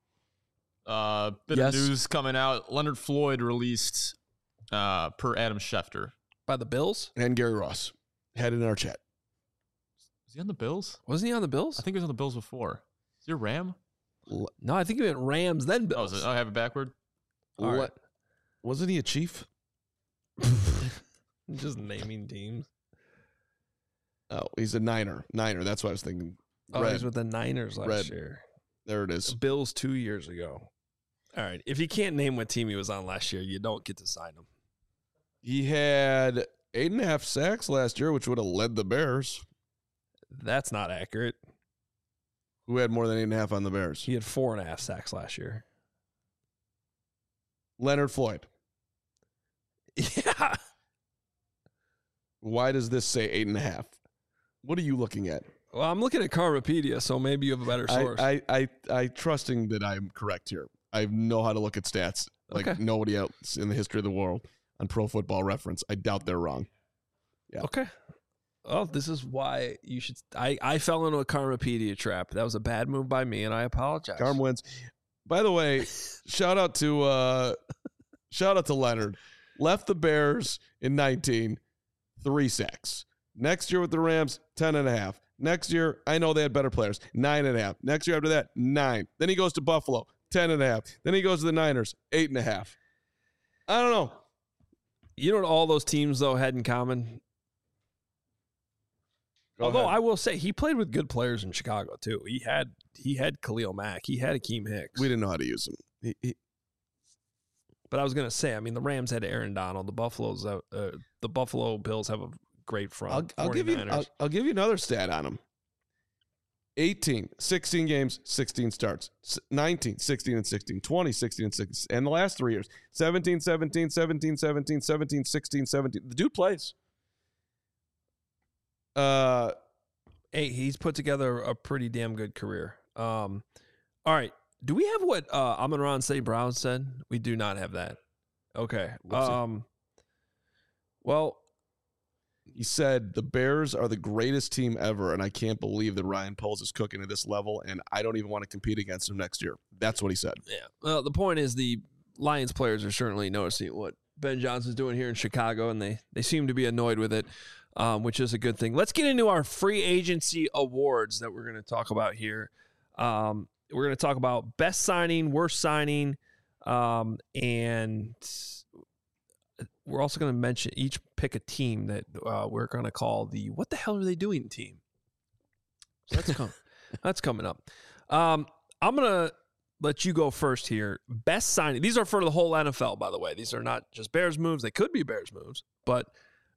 Uh, bit Yes. of news coming out. Leonard Floyd released, uh, per Adam Schefter. By the Bills? And Gary Ross had it in our chat. Is he on the Bills? Wasn't he on the Bills? I think he was on the Bills before. Is he a Ram? No, I think he went Rams, then Oh, Bills. is it? Oh, I have it backward. All right. What? Wasn't he a Chief? Just naming teams. Oh, he's a Niner. Niner. That's what I was thinking. Oh, Red. he's with the Niners last Red. year. There it is. Bills two years ago. All right. If you can't name what team he was on last year, you don't get to sign him. He had eight and a half sacks last year, which would have led the Bears. That's not accurate. Who had more than eight and a half on the Bears? He had four and a half sacks last year. Leonard Floyd. Yeah. Why does this say eight and a half? What are you looking at? Well, I'm looking at Karmapedia, so maybe you have a better source. I, I, I, I trusting that I'm correct here. I know how to look at stats like Okay. nobody else in the history of the world on Pro Football Reference. I doubt they're wrong. Yeah. Okay. Well, this is why you should. I, I fell into a Karmapedia trap. That was a bad move by me, and I apologize. Carm wins. By the way, shout out to uh, shout out to Leonard. Left the Bears in nineteen, three sacks. Next year with the Rams, ten and a half. Next year, I know they had better players, nine and a half. Next year after that, nine. Then he goes to Buffalo, ten and a half. Then he goes to the Niners, eight and a half. I don't know. You know what all those teams, though, had in common? Go Although ahead. I will say he played with good players in Chicago, too. He had he had Khalil Mack. He had Akeem Hicks. we didn't know how to use him. He, he, But I was going to say, I mean, the Rams had Aaron Donald. The Buffaloes, uh, uh, the Buffalo Bills have a great front. I'll, I'll give you. 49ers. I'll, I'll give you another stat on him. eighteen, sixteen games, sixteen starts. S- nineteen, sixteen and sixteen, twenty, sixteen and sixteen. And the last three years, seventeen, seventeen, seventeen, seventeen, seventeen, sixteen, seventeen. The dude plays. Uh, Hey, he's put together a pretty damn good career. Um, all right. Do we have what uh, Amon-Ra Saint Brown said? We do not have that. Okay. Whoopsie. Um, well, he said the Bears are the greatest team ever, and I can't believe that Ryan Poles is cooking at this level, and I don't even want to compete against him next year. That's what he said. yeah. Well, the point is the Lions players are certainly noticing what Ben Johnson's doing here in Chicago, and they, they seem to be annoyed with it, um, which is a good thing. Let's get into our free agency awards that we're going to talk about here. Um, we're going to talk about best signing, worst signing, um, and we're also going to mention each pick a team that uh, we're going to call the "What the hell are they doing?" team. So that's coming. That's coming up. Um, I'm going to let you go first here. Best signing. These are for the whole N F L, by the way. These are not just Bears moves. They could be Bears moves, but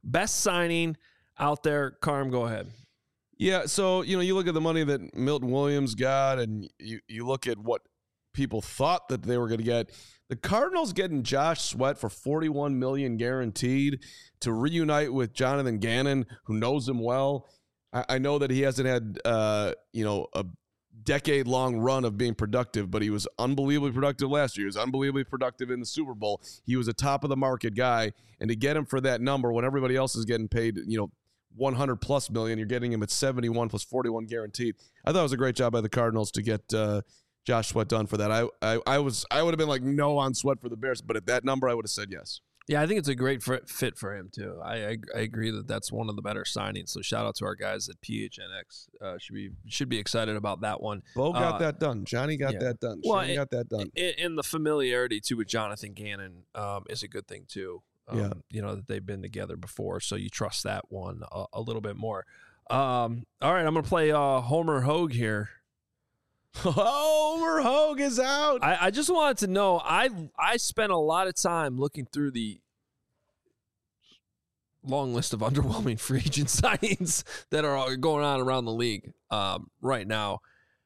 Best signing out there. Carm, go ahead. Yeah, so, you know, you look at the money that Milton Williams got, and you, you look at what people thought that they were going to get. The Cardinals getting Josh Sweat for forty-one million dollars guaranteed to reunite with Jonathan Gannon, who knows him well. I, I know that he hasn't had, uh, you know, a decade-long run of being productive, but he was unbelievably productive last year. He was unbelievably productive in the Super Bowl. He was a top-of-the-market guy, and to get him for that number when everybody else is getting paid, you know, one hundred plus million, you're getting him at seventy-one plus forty-one guaranteed. I thought it was a great job by the Cardinals to get uh, Josh Sweat done for that. I, I I was I would have been like no on Sweat for the Bears, but at that number I would have said yes. Yeah, I think it's a great fit for him too. I, I I agree that that's one of the better signings. So shout out to our guys at P H N X. Uh, should be should be excited about that one. Bo got uh, that done. Johnny got yeah. that done. Well, Shane got that done. And, and the familiarity too with Jonathan Gannon um, is a good thing too. Um, yeah, you know that they've been together before, so you trust that one a, a little bit more. Um, all right, I'm gonna play uh, Homer Hogue here. Homer Hogue is out. I, I just wanted to know. I I spent a lot of time looking through the long list of underwhelming free agent signings that are going on around the league um, right now.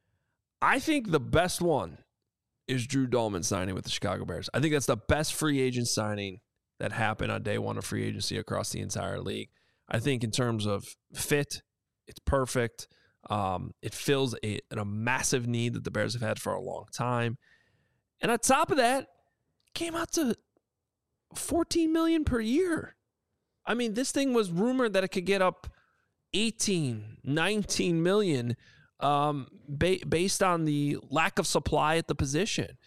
I think the best one is Drew Dolman signing with the Chicago Bears. I think that's the best free agent signing that happened on day one of free agency across the entire league. I think in terms of fit, it's perfect. Um, it fills a, a massive need that the Bears have had for a long time. And on top of that, came out to fourteen million dollars per year. I mean, this thing was rumored that it could get up eighteen, nineteen million um, ba- based on the lack of supply at the position.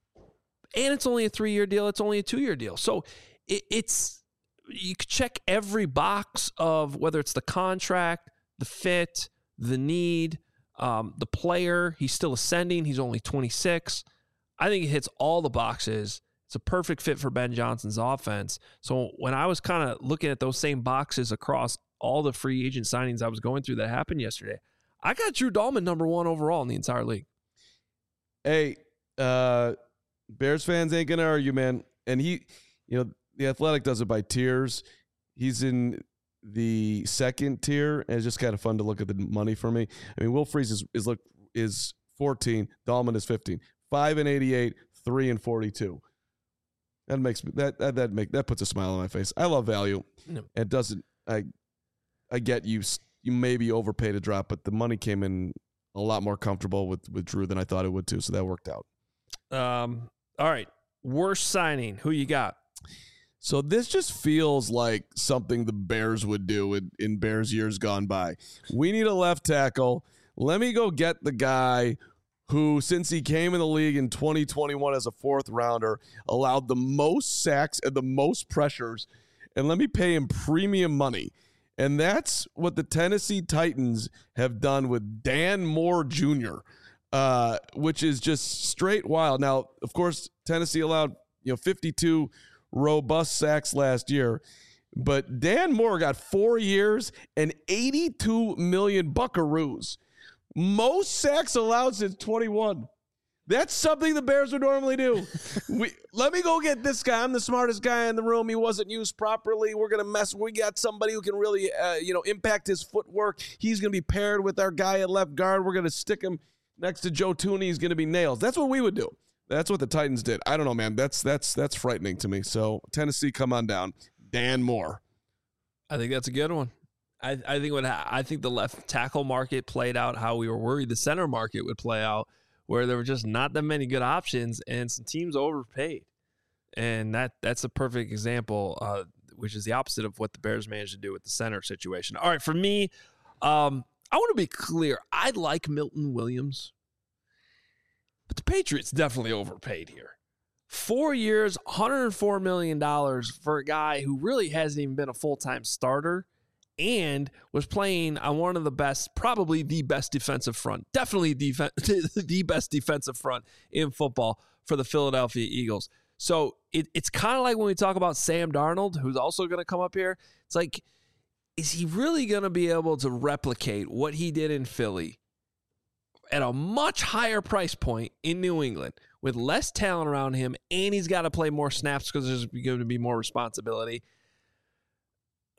And it's only a three-year deal. It's only a two-year deal. So it, it's you could check every box of whether it's the contract, the fit, the need, um, the player. He's still ascending. He's only twenty-six. I think it hits all the boxes. It's a perfect fit for Ben Johnson's offense. So when I was kind of looking at those same boxes across all the free agent signings I was going through that happened yesterday, I got Drew Dolman number one overall in the entire league. Hey, uh, Bears fans ain't gonna argue, man. And he, you know, the Athletic does it by tiers. He's in the second tier, and it's just kind of fun to look at the money for me. I mean, Will Freeze is is look is fourteen, Dolman is fifteen, five and eighty-eight, three and forty-two. That makes me that that that make that puts a smile on my face. I love value. No. It doesn't. I I get you. You maybe overpaid a drop, but the money came in a lot more comfortable with with Drew than I thought it would too. So that worked out. Um. All right. Worst signing. Who you got? So this just feels like something the Bears would do in, in Bears years gone by. We need a left tackle. Let me go get the guy who, since he came in the league in twenty twenty-one as a fourth rounder, allowed the most sacks and the most pressures, and let me pay him premium money. And that's what the Tennessee Titans have done with Dan Moore Junior, uh, which is just straight wild. Now, of course, Tennessee allowed you know fifty-two robust sacks last year, but Dan Moore got four years and eighty-two million buckaroos. Most sacks allowed since twenty-one. That's something the Bears would normally do. we let me go get this guy. I'm the smartest guy in the room. He wasn't used properly. We're gonna mess. We got somebody who can really, uh, you know, impact his footwork. He's gonna be paired with our guy at left guard. We're gonna stick him next to Joe Thuney. He's gonna be nails. That's what we would do. That's what the Titans did. I don't know, man. That's that's that's frightening to me. So Tennessee, come on down. Dan Moore. I think that's a good one. I, I think what I think the left tackle market played out how we were worried the center market would play out, where there were just not that many good options and some teams overpaid, and that that's a perfect example, uh, which is the opposite of what the Bears managed to do with the center situation. All right, for me, um, I want to be clear. I like Milton Williams, but the Patriots definitely overpaid here. Four years, one hundred four million dollars for a guy who really hasn't even been a full-time starter and was playing on one of the best, probably the best defensive front, definitely def- the best defensive front in football for the Philadelphia Eagles. So it, it's kind of like when we talk about Sam Darnold, who's also going to come up here. It's like, is he really going to be able to replicate what he did in Philly at a much higher price point in New England with less talent around him, and he's got to play more snaps because there's going to be more responsibility?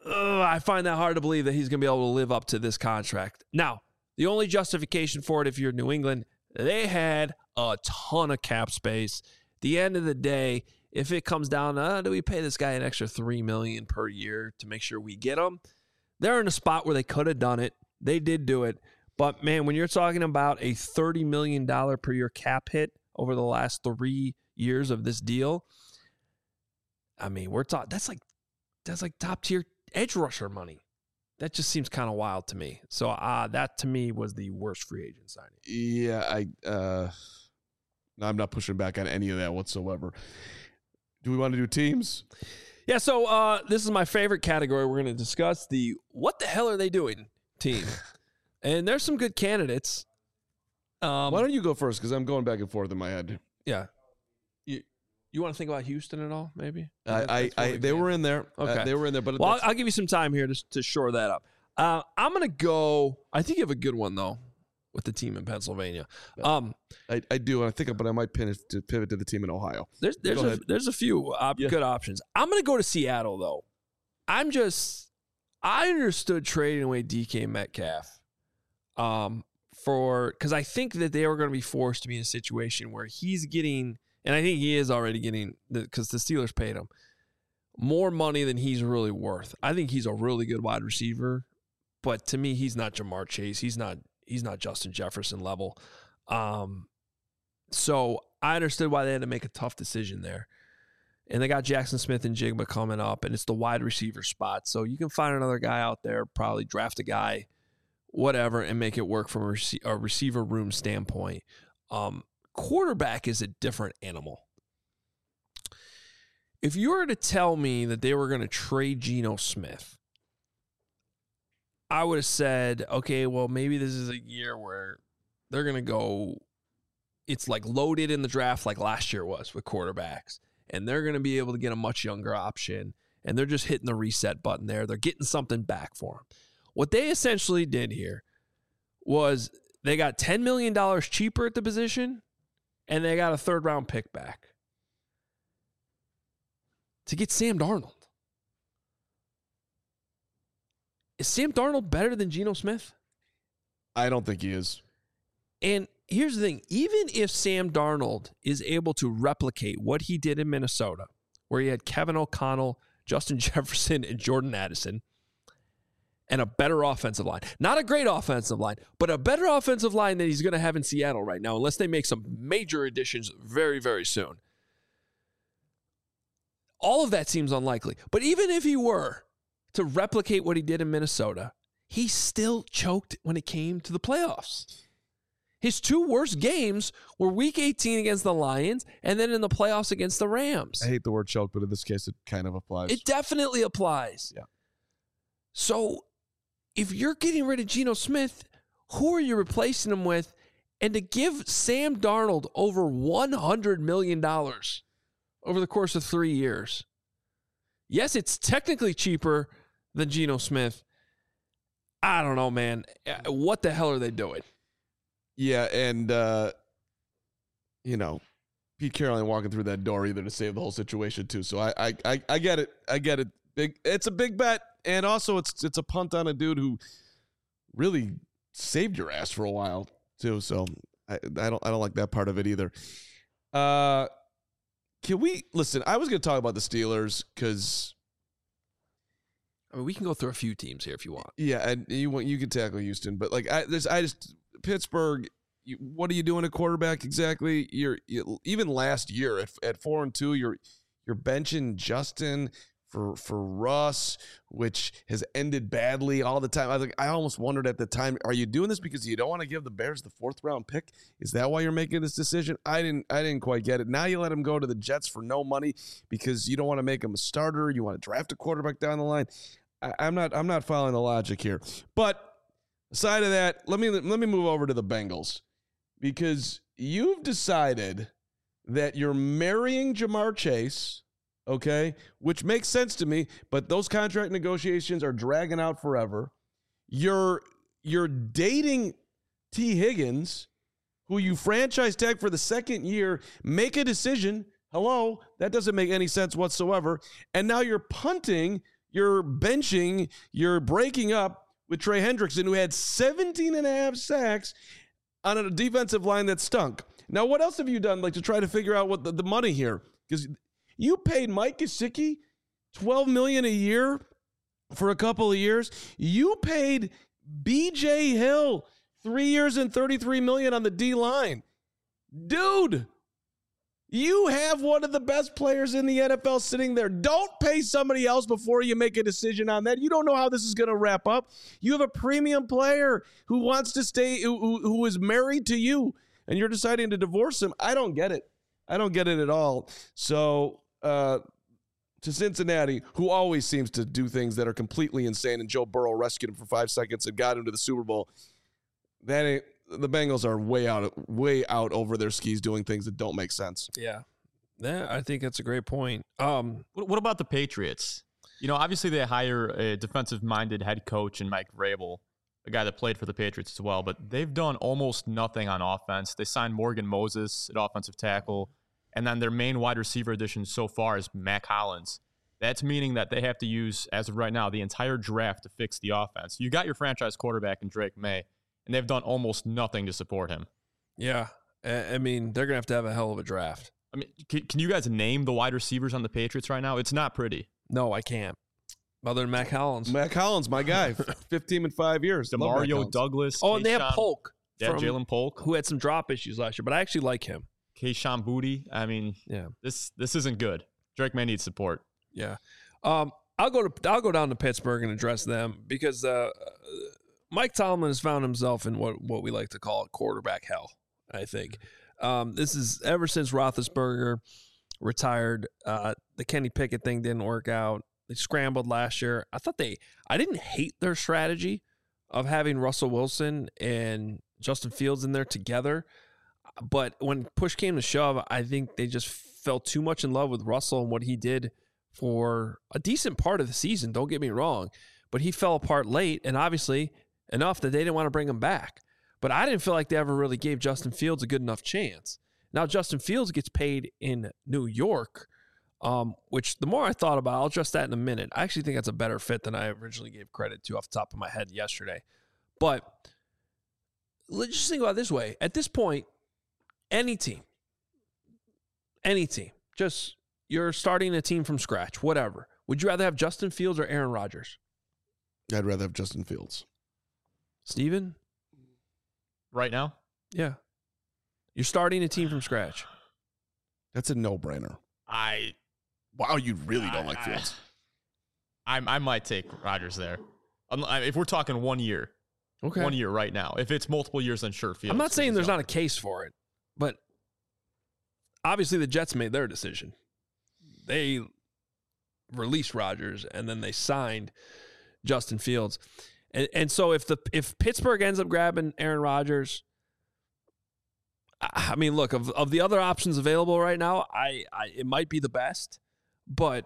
uh, I find that hard to believe that he's going to be able to live up to this contract. Now, the only justification for it, if you're New England, they had a ton of cap space. At the end of the day, if it comes down to, uh, do we pay this guy an extra three million dollars per year to make sure we get him? They're in a spot where they could have done it. They did do it. But, man, when you're talking about a thirty million dollars per year cap hit over the last three years of this deal, I mean, we're talking, that's like, that's like top-tier edge rusher money. That just seems kind of wild to me. So uh, that, to me, was the worst free agent signing. Yeah, I, uh, no, I'm not pushing back on any of that whatsoever. Do we want to do teams? Yeah, so uh, this is my favorite category. We're going to discuss the what the hell are they doing team. And there's some good candidates. Um, Why don't you go first? Because I'm going back and forth in my head. Yeah. You you want to think about Houston at all, maybe? I, I, I They were in there. Okay. Uh, they were in there. But well, I'll, I'll give you some time here to, to shore that up. Uh, I'm going to go. I think you have a good one, though, with the team in Pennsylvania. Um, I, I do. I think, but I might pin it to pivot to the team in Ohio. There's there's Go a, ahead. there's a few op- Yeah. good options. I'm going to go to Seattle, though. I'm just I understood trading away D K Metcalf um, for because I think that they were going to be forced to be in a situation where he's getting, and I think he is already getting, because the, the Steelers paid him more money than he's really worth. I think he's a really good wide receiver, but to me, he's not Jamar Chase. He's not he's not Justin Jefferson level. Um, so I understood why they had to make a tough decision there. And they got Jackson Smith and Jigba coming up, and it's the wide receiver spot. So you can find another guy out there, probably draft a guy, whatever, and make it work from a, rec- a receiver room standpoint. Um, quarterback is a different animal. If you were to tell me that they were going to trade Geno Smith, I would have said, okay, well, maybe this is a year where they're going to go, it's like loaded in the draft like last year was with quarterbacks. And they're going to be able to get a much younger option. And they're just hitting the reset button there. They're getting something back for them. What they essentially did here was they got ten million dollars cheaper at the position, and they got a third-round pick back to get Sam Darnold. Is Sam Darnold better than Geno Smith? I don't think he is. And here's the thing. Even if Sam Darnold is able to replicate what he did in Minnesota, where he had Kevin O'Connell, Justin Jefferson, and Jordan Addison, and a better offensive line. Not a great offensive line, but a better offensive line than he's going to have in Seattle right now, unless they make some major additions very, very soon. All of that seems unlikely. But even if he were to replicate what he did in Minnesota, he still choked when it came to the playoffs. His two worst games were week eighteen against the Lions and then in the playoffs against the Rams. I hate the word choke, but in this case, it kind of applies. It definitely applies. Yeah. So if you're getting rid of Geno Smith, who are you replacing him with? And to give Sam Darnold over one hundred million dollars over the course of three years. Yes, it's technically cheaper than Geno Smith. I don't know, man. What the hell are they doing? Yeah, and, uh, you know, Pete Carroll ain't walking through that door either to save the whole situation, too. So I I, I, I get it. I get it. Big, it's a big bet, and also it's it's a punt on a dude who really saved your ass for a while, too. So I, I don't I don't like that part of it either. Uh, can we – listen, I was going to talk about the Steelers because – I mean, we can go through a few teams here if you want. yeah, and you want you can tackle Houston, but, like, I, there's, I just – Pittsburgh, you, what are you doing at quarterback exactly? You're you, even last year at, at four and two, you're you're benching Justin for for Russ, which has ended badly all the time. I think I almost wondered at the time, are you doing this because you don't want to give the Bears the fourth round pick? Is that why you're making this decision? I didn't I didn't quite get it. Now you let him go to the Jets for no money because you don't want to make him a starter. You want to draft a quarterback down the line. I, I'm not I'm not following the logic here, but. Aside of that, let me let me move over to the Bengals because you've decided that you're marrying Jamar Chase, okay, which makes sense to me, but those contract negotiations are dragging out forever. You're you're dating T. Higgins, who you franchise tag for the second year, make a decision. Hello, that doesn't make any sense whatsoever. And now you're punting you're benching, you're breaking up with Trey Hendrickson, who had seventeen and a half sacks on a defensive line that stunk. Now, what else have you done, like, to try to figure out what the, the money here? Because you paid Mike Gesicki twelve million dollars a year for a couple of years. You paid B J Hill three years and thirty-three million dollars on the D line. Dude, you have one of the best players in the N F L sitting there. Don't pay somebody else before you make a decision on that. You don't know how this is going to wrap up. You have a premium player who wants to stay, who, who, who is married to you, and you're deciding to divorce him. I don't get it. I don't get it at all. So, uh, to Cincinnati, who always seems to do things that are completely insane, and Joe Burrow rescued him for five seconds and got him to the Super Bowl. That ain't, the Bengals are way out, way out over their skis doing things that don't make sense. Yeah. Yeah, I think that's a great point. Um, what, what about the Patriots? You know, obviously they hire a defensive-minded head coach in Mike Vrabel, a guy that played for the Patriots as well, but they've done almost nothing on offense. They signed Morgan Moses at offensive tackle, and then their main wide receiver addition so far is Mac Hollins. That's meaning that they have to use, as of right now, the entire draft to fix the offense. You got your franchise quarterback in Drake May, and they've done almost nothing to support him. Yeah. I mean, they're going to have to have a hell of a draft. I mean, can, can you guys name the wide receivers on the Patriots right now? It's not pretty. No, I can't. Other than Mac Hollins. Mac Hollins, my guy. fifteen and five years. Demario Douglas. Oh, and they have Polk. Yeah, Jalen Polk. Who had some drop issues last year, but I actually like him. Kayshon Boutte. I mean, yeah, this this isn't good. Drake May needs support. Yeah. Um, I'll go to I'll go down to Pittsburgh and address them because uh, Mike Tomlin has found himself in what, what we like to call quarterback hell, I think. Um, this is ever since Roethlisberger retired, uh, the Kenny Pickett thing didn't work out. They scrambled last year. I thought they – I didn't hate their strategy of having Russell Wilson and Justin Fields in there together. But when push came to shove, I think they just fell too much in love with Russell and what he did for a decent part of the season. Don't get me wrong. But he fell apart late, and obviously enough that they didn't want to bring him back. But I didn't feel like they ever really gave Justin Fields a good enough chance. Now Justin Fields gets paid in New York, um, which the more I thought about it, I'll address that in a minute. I actually think that's a better fit than I originally gave credit to off the top of my head yesterday. But let's just think about it this way. At this point, any team, any team, just you're starting a team from scratch, whatever. Would you rather have Justin Fields or Aaron Rodgers? I'd rather have Justin Fields. Steven? Right now? Yeah. You're starting a team from scratch. That's a no-brainer. I wow, you really don't I, like Fields. I, I I might take Rodgers there. If we're talking one year, okay, one year right now. If it's multiple years, then sure, Fields. I'm not saying there's not a case for it, but obviously the Jets made their decision. They released Rodgers and then they signed Justin Fields, and and so if the if Pittsburgh ends up grabbing Aaron Rodgers. I mean, look, of, of the other options available right now, I, I it might be the best, but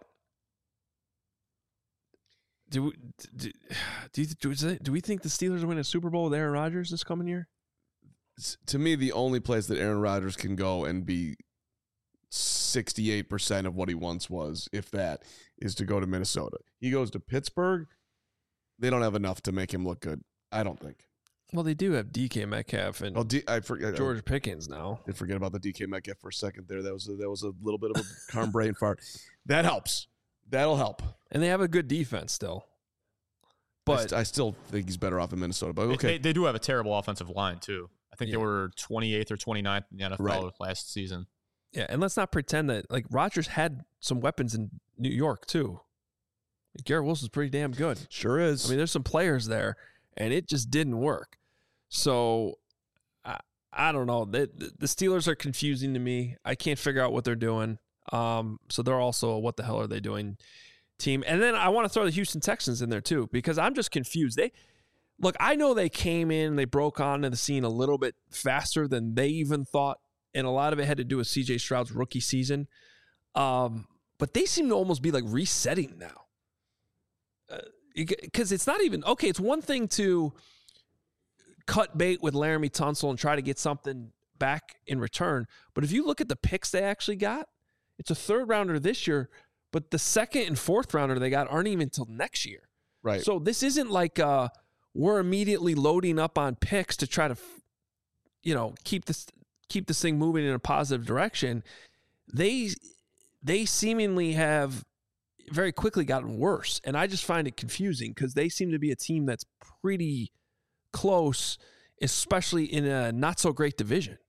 do we, do, do, do, do we think the Steelers will win a Super Bowl with Aaron Rodgers this coming year? To me, the only place that Aaron Rodgers can go and be sixty-eight percent of what he once was, if that, is to go to Minnesota. He goes to Pittsburgh, they don't have enough to make him look good, I don't think. Well, they do have D K Metcalf and oh, D- I forget, George Pickens now. I forget about the D K Metcalf for a second there. That was a, that was a little bit of a calm brain fart. That helps. That'll help. And they have a good defense still. But I, st- I still think he's better off in Minnesota. But okay, they, they do have a terrible offensive line too. I think yeah. they were twenty-eighth or twenty-ninth in the N F L right. last season. Yeah, and let's not pretend that like Rodgers had some weapons in New York too. Garrett Wilson's pretty damn good. Sure is. I mean, there's some players there, and it just didn't work. So, I, I don't know. The, the Steelers are confusing to me. I can't figure out what they're doing. Um, so they're also a what the hell are they doing team. And then I want to throw the Houston Texans in there too because I'm just confused. They look. I know they came in, they broke onto the scene a little bit faster than they even thought, and a lot of it had to do with C J Stroud's rookie season. Um, but they seem to almost be like resetting now because uh, it's not even okay. It's one thing to cut bait with Laramie Tunsil and try to get something back in return. But if you look at the picks they actually got, it's a third rounder this year, but the second and fourth rounder they got aren't even until next year. Right. So this isn't like uh, we're immediately loading up on picks to try to, you know, keep this keep this thing moving in a positive direction. They they seemingly have very quickly gotten worse, and I just find it confusing because they seem to be a team that's pretty close, especially in a not so great division.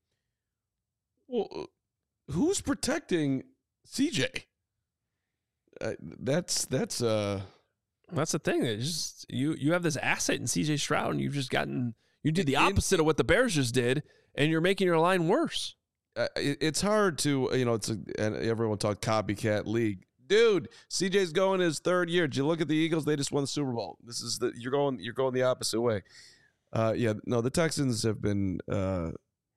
Well, who's protecting C J? Uh, that's that's uh that's the thing. It's just you you have this asset in C J Stroud, and you've just gotten you did the in, opposite of what the Bears just did, and you're making your line worse. Uh, it, it's hard to you know it's a, and everyone talk copycat league, dude. C J's going his third year. Did you look at the Eagles? They just won the Super Bowl. This is the you're going you're going the opposite way. Uh, yeah, no, the Texans have been uh,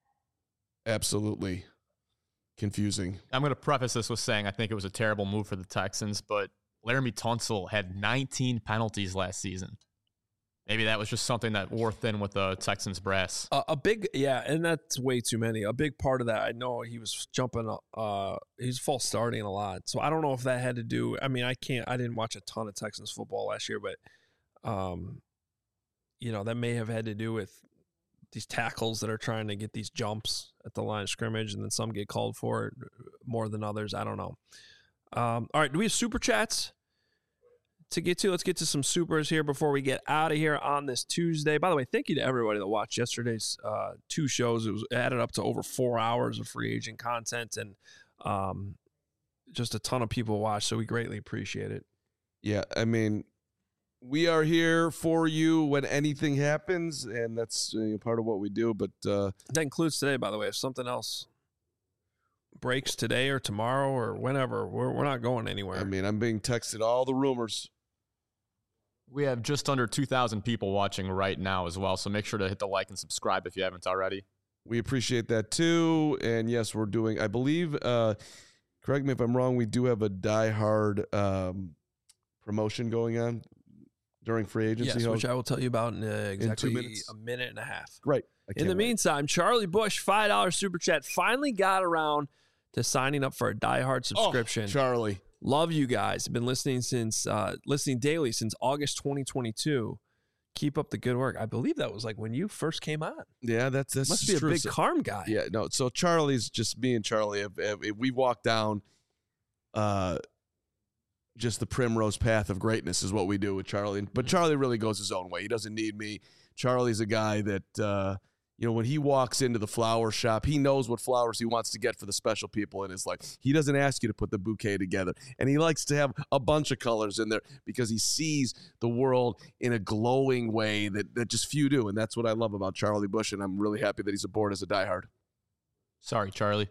absolutely confusing. I'm going to preface this with saying I think it was a terrible move for the Texans, but Laramie Tunsil had nineteen penalties last season. Maybe that was just something that wore thin with the Texans brass. Uh, a big, yeah, and that's way too many. A big part of that, I know he was jumping, uh, he's false starting a lot. So I don't know if that had to do, I mean, I can't, I didn't watch a ton of Texans football last year, but, um, you know, that may have had to do with these tackles that are trying to get these jumps at the line of scrimmage, and then some get called for it more than others. I don't know. Um, all right, do we have super chats to get to? Let's get to some supers here before we get out of here on this Tuesday. By the way, thank you to everybody that watched yesterday's uh, two shows. It was added up to over four hours of free agent content, and um, just a ton of people watched, so we greatly appreciate it. Yeah, I mean, we are here for you when anything happens, and that's uh, part of what we do. But uh, that includes today, by the way. If something else breaks today or tomorrow or whenever, we're we're not going anywhere. I mean, I'm being texted all the rumors. We have just under two thousand people watching right now as well, so make sure to hit the like and subscribe if you haven't already. We appreciate that too. And yes, we're doing, I believe, uh, correct me if I'm wrong, we do have a Die Hard um, promotion going on during free agency. Yes, which I will tell you about in uh, exactly in two minutes. a minute and a half. Right. In the wait. meantime, Charlie Bush, five dollars super chat, finally got around to signing up for a Die Hard subscription. Oh, Charlie. Love you guys. Been listening since uh, listening daily since August twenty twenty-two. Keep up the good work. I believe that was like when you first came on. Yeah, that's that's Must be true. a big So, Carm guy. yeah, no. So Charlie's just me and Charlie. Have, have, we walk down, uh, just the primrose path of greatness is what we do with Charlie. But Charlie really goes his own way. He doesn't need me. Charlie's a guy that uh, you know when he walks into the flower shop, he knows what flowers he wants to get for the special people in his life. He doesn't ask you to put the bouquet together, and he likes to have a bunch of colors in there because he sees the world in a glowing way that that just few do, and that's what I love about Charlie Bush. And I'm really happy that he's aboard as a diehard. Sorry, Charlie.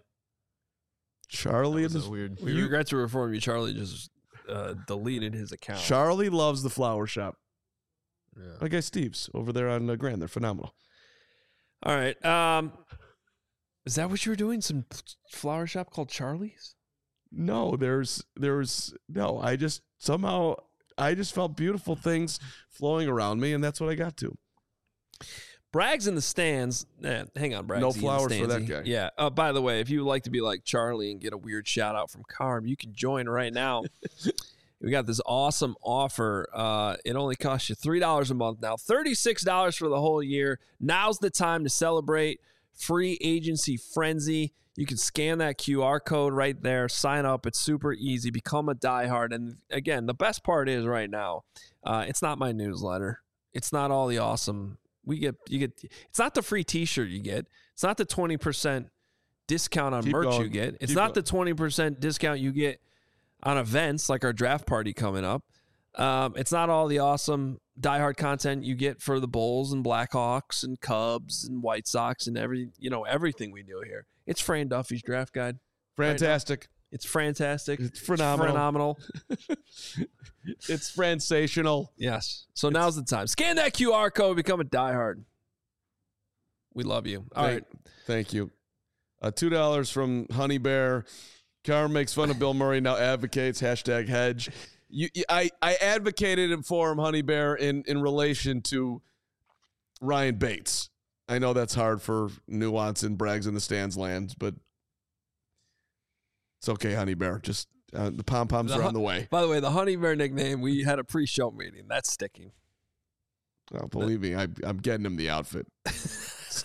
Charlie That is was a weird. We regret to inform you, Charlie just uh, deleted his account. Charlie loves the flower shop. Yeah. My guy Steve's over there on uh, Grand. They're phenomenal. All right. Um, is that what you were doing? Some flower shop called Charlie's? No, there's there's no. I just somehow I just felt beautiful things flowing around me, and that's what I got to. Bragg's in the stands. Eh, hang on, Braggs. No flowers for that guy. Yeah. Uh, by the way, if you would like to be like Charlie and get a weird shout out from Carm, you can join right now. We got this awesome offer. Uh, it only costs you three dollars a month now, thirty-six dollars for the whole year. Now's the time to celebrate free agency frenzy. You can scan that Q R code right there, sign up. It's super easy. Become a diehard. And again, the best part is right now, uh, it's not my newsletter. It's not all the awesome. We get you get. It's not the free T-shirt you get. It's not the twenty percent discount on Keep merch going. you get. It's Keep not going. the twenty percent discount you get on events like our draft party coming up. Um, it's not all the awesome diehard content you get for the Bulls and Blackhawks and Cubs and White Sox and every you know everything we do here. It's Fran Duffy's draft guide. Fantastic. It's fantastic. It's phenomenal. Phenomenal. It's sensational. Yes. So now's the time. Scan that Q R code. Become a diehard. We love you. All thank, right. Thank you. Uh, Two dollars from Honey Bear. Carm makes fun of Bill Murray, now advocates hashtag hedge. You, you, I, I advocated for him, Honey Bear, in, in relation to Ryan Bates. I know that's hard for nuance and Brags in the stands lands, but it's okay, Honey Bear. Just Uh, the pom poms are on the way. By the way, the Honey Bear nickname, we had a pre-show meeting. That's sticking. Oh, believe me, I, I'm getting him the outfit. he's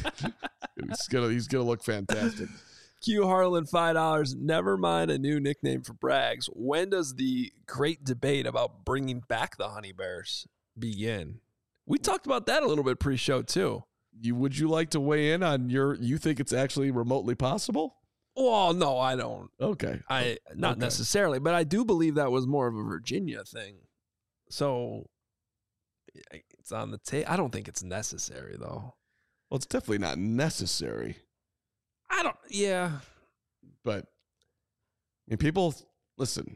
gonna he's gonna look fantastic. Q Harlan, five dollars. Never mind a new nickname for Braggs. When does the great debate about bringing back the Honey Bears begin? We talked about that a little bit pre-show too. You would you like to weigh in on your? You think it's actually remotely possible? Well, no, I don't. Okay, I not okay. necessarily, but I do believe that was more of a Virginia thing. So it's on the tape. I don't think it's necessary though. Well, it's definitely not necessary. I don't. Yeah, but I mean, people listen.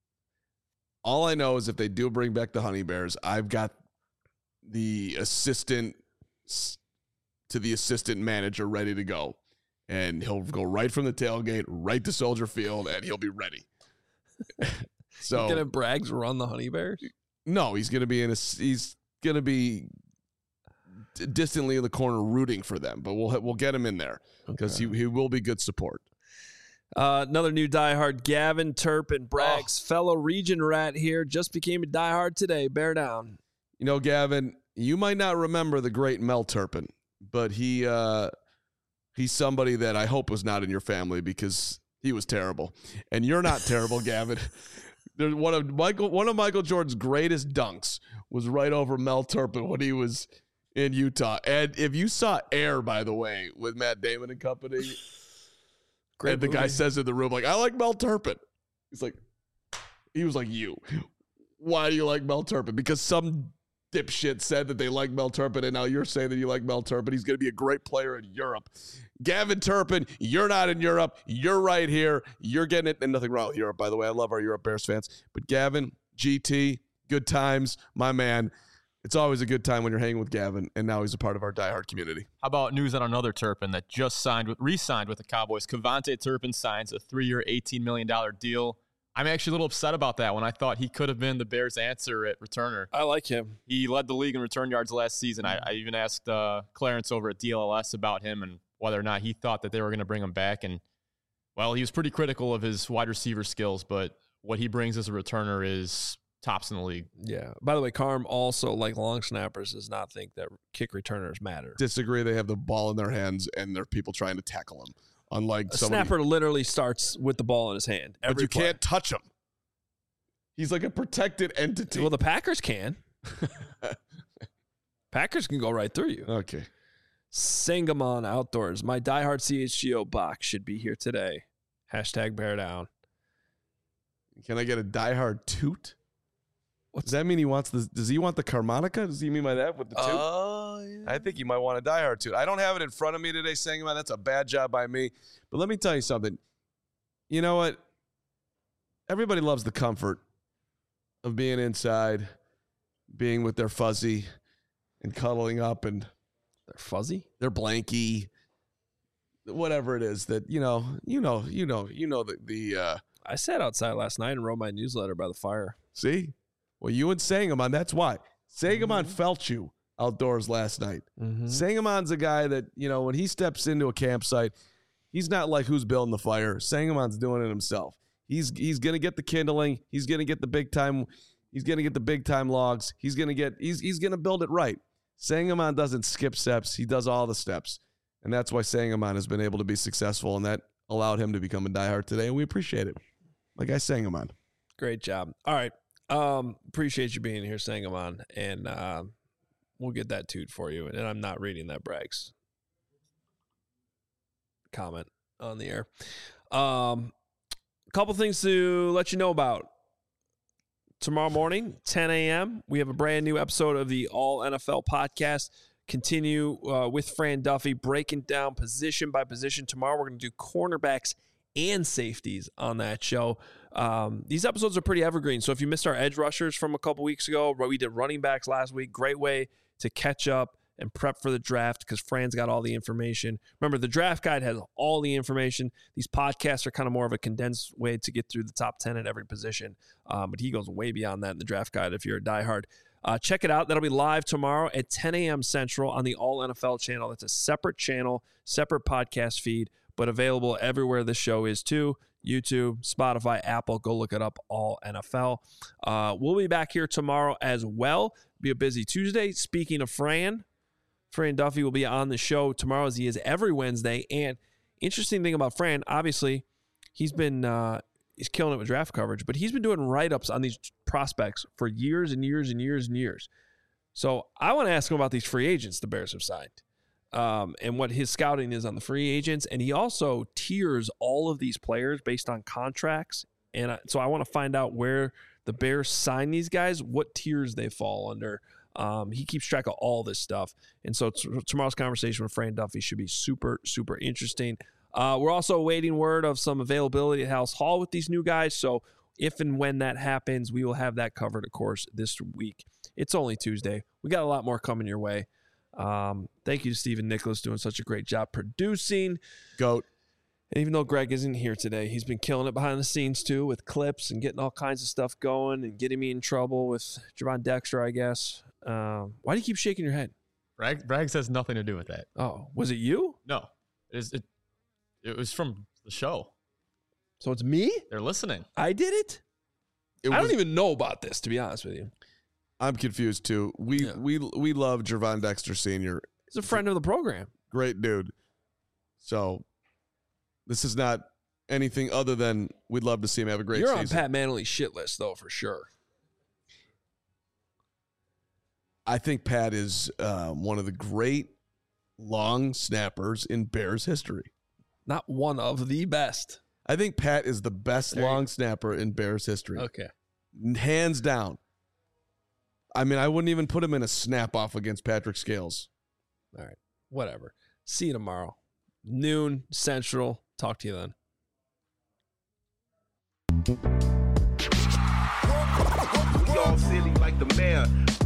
All I know is if they do bring back the Honey Bears, I've got the assistant to the assistant manager ready to go, and he'll go right from the tailgate right to Soldier Field, and he'll be ready. So gonna Braggs run the Honey Bears? No, he's gonna be in a. He's gonna be distantly in the corner rooting for them, but we'll we'll get him in there because okay. he he will be good support. Uh, another new diehard, Gavin Turpin, Braggs' oh. fellow region rat here, just became a diehard today. Bear down. You know, Gavin, you might not remember the great Mel Turpin, but he uh, he's somebody that I hope was not in your family because he was terrible, and you're not terrible, Gavin. There's one of Michael one of Michael Jordan's greatest dunks was right over Mel Turpin when he was in Utah. And if you saw Air, by the way, with Matt Damon and company, great and the movie. Guy says in the room, like, I like Mel Turpin. He's like, he was like, you. Why do you like Mel Turpin? Because some dipshit said that they like Mel Turpin, and now you're saying that you like Mel Turpin. He's going to be a great player in Europe. Gavin Turpin, you're not in Europe. You're right here. You're getting it. And nothing wrong with Europe, by the way. I love our Europe Bears fans. But Gavin, G T, good times, my man. It's always a good time when you're hanging with Gavin, and now he's a part of our diehard community. How about news on another Turpin that just signed with, re-signed with the Cowboys? Kevontae Turpin signs a three-year, eighteen million dollars deal. I'm actually a little upset about that when I thought he could have been the Bears' answer at returner. I like him. He led the league in return yards last season. I, I even asked uh, Clarence over at D L L S about him and whether or not he thought that they were going to bring him back. And, well, he was pretty critical of his wide receiver skills, but what he brings as a returner is tops in the league. Yeah. By the way, Carm also, like long snappers, does not think that kick returners matter. Disagree. They have the ball in their hands, and there are people trying to tackle them. Unlike a somebody, snapper literally starts with the ball in his hand. But you play. can't touch him. He's like a protected entity. Well, the Packers can. Packers can go right through you. Okay. Sangamon Outdoors. My diehard C H G O box should be here today. Hashtag bear down. Can I get a diehard toot? What does that mean? He wants the? Does he want the Carmonica? Does he mean by that with the toot? Oh, uh, yeah. I think he might want a diehard toot. I don't have it in front of me today, Sangamon. That's a bad job by me. But let me tell you something. You know what? Everybody loves the comfort of being inside, being with their fuzzy, and cuddling up, and they're fuzzy, they're blanky, whatever it is that you know, you know, you know, you know the the. Uh, I sat outside last night and wrote my newsletter by the fire. See, well, you and Sangamon, that's why Sangamon mm-hmm. felt you outdoors last night. Mm-hmm. Sangamon's a guy that you know when he steps into a campsite, he's not like who's building the fire. Sangamon's doing it himself. He's he's gonna get the kindling. He's gonna get the big time. He's gonna get the big time logs. He's gonna get. He's he's gonna build it right. Sangamon doesn't skip steps. He does all the steps, and that's why Sangamon has been able to be successful, and that allowed him to become a diehard today, and we appreciate it. Like I Sangamon. Great job. All right, um, appreciate you being here, Sangamon, and uh, we'll get that toot for you. And I'm not reading that Braggs comment on the air. Um. Couple things to let you know about. Tomorrow morning, ten a.m., we have a brand new episode of the All N F L podcast. Continue uh, with Fran Duffy, breaking down position by position. Tomorrow, we're going to do cornerbacks and safeties on that show. Um, these episodes are pretty evergreen. So if you missed our edge rushers from a couple weeks ago, we did running backs last week. Great way to catch up and prep for the draft because Fran's got all the information. Remember, the draft guide has all the information. These podcasts are kind of more of a condensed way to get through the top ten at every position. Um, but he goes way beyond that in the draft guide if you're a diehard. Uh, check it out. That'll be live tomorrow at ten a.m. Central on the All N F L channel. That's a separate channel, separate podcast feed, but available everywhere this show is too. YouTube, Spotify, Apple. Go look it up, All N F L. Uh, we'll be back here tomorrow as well. Be a busy Tuesday. Speaking of Fran, Fran Duffy will be on the show tomorrow as he is every Wednesday. And interesting thing about Fran, obviously, he's been uh, he's killing it with draft coverage, but he's been doing write-ups on these prospects for years and years and years and years. So I want to ask him about these free agents the Bears have signed. Um, and what his scouting is on the free agents. And he also tiers all of these players based on contracts. And I, so I want to find out where the Bears sign these guys, what tiers they fall under. Um, he keeps track of all this stuff. And so t- tomorrow's conversation with Fran Duffy should be super, super interesting. Uh, we're also awaiting word of some availability at House Hall with these new guys. So if and when that happens, we will have that covered, of course, this week. It's only Tuesday. We got a lot more coming your way. Um, thank you to Stephen Nicholas doing such a great job producing. Goat. And even though Greg isn't here today, he's been killing it behind the scenes too with clips and getting all kinds of stuff going and getting me in trouble with Javon Dexter, I guess. Um, why do you keep shaking your head? Bragg, Braggs has nothing to do with that. Oh, was it you? No, it, is, it, it was from the show. So it's me? They're listening. I did it? It I was- don't even know about this, to be honest with you. I'm confused too. We Yeah. we we love Javon Dexter Senior He's a friend of the program. Great dude. So this is not anything other than we'd love to see him have a great You're season. on Pat Manley's shit list, though, for sure. I think Pat is um, one of the great long snappers in Bears history. Not one of the best. I think Pat is the best There you long snapper in Bears history. Okay. Hands down. I mean, I wouldn't even put him in a snap off against Patrick Scales. All right. Whatever. See you tomorrow. Noon Central. Talk to you then. Y'all silly like the mayor.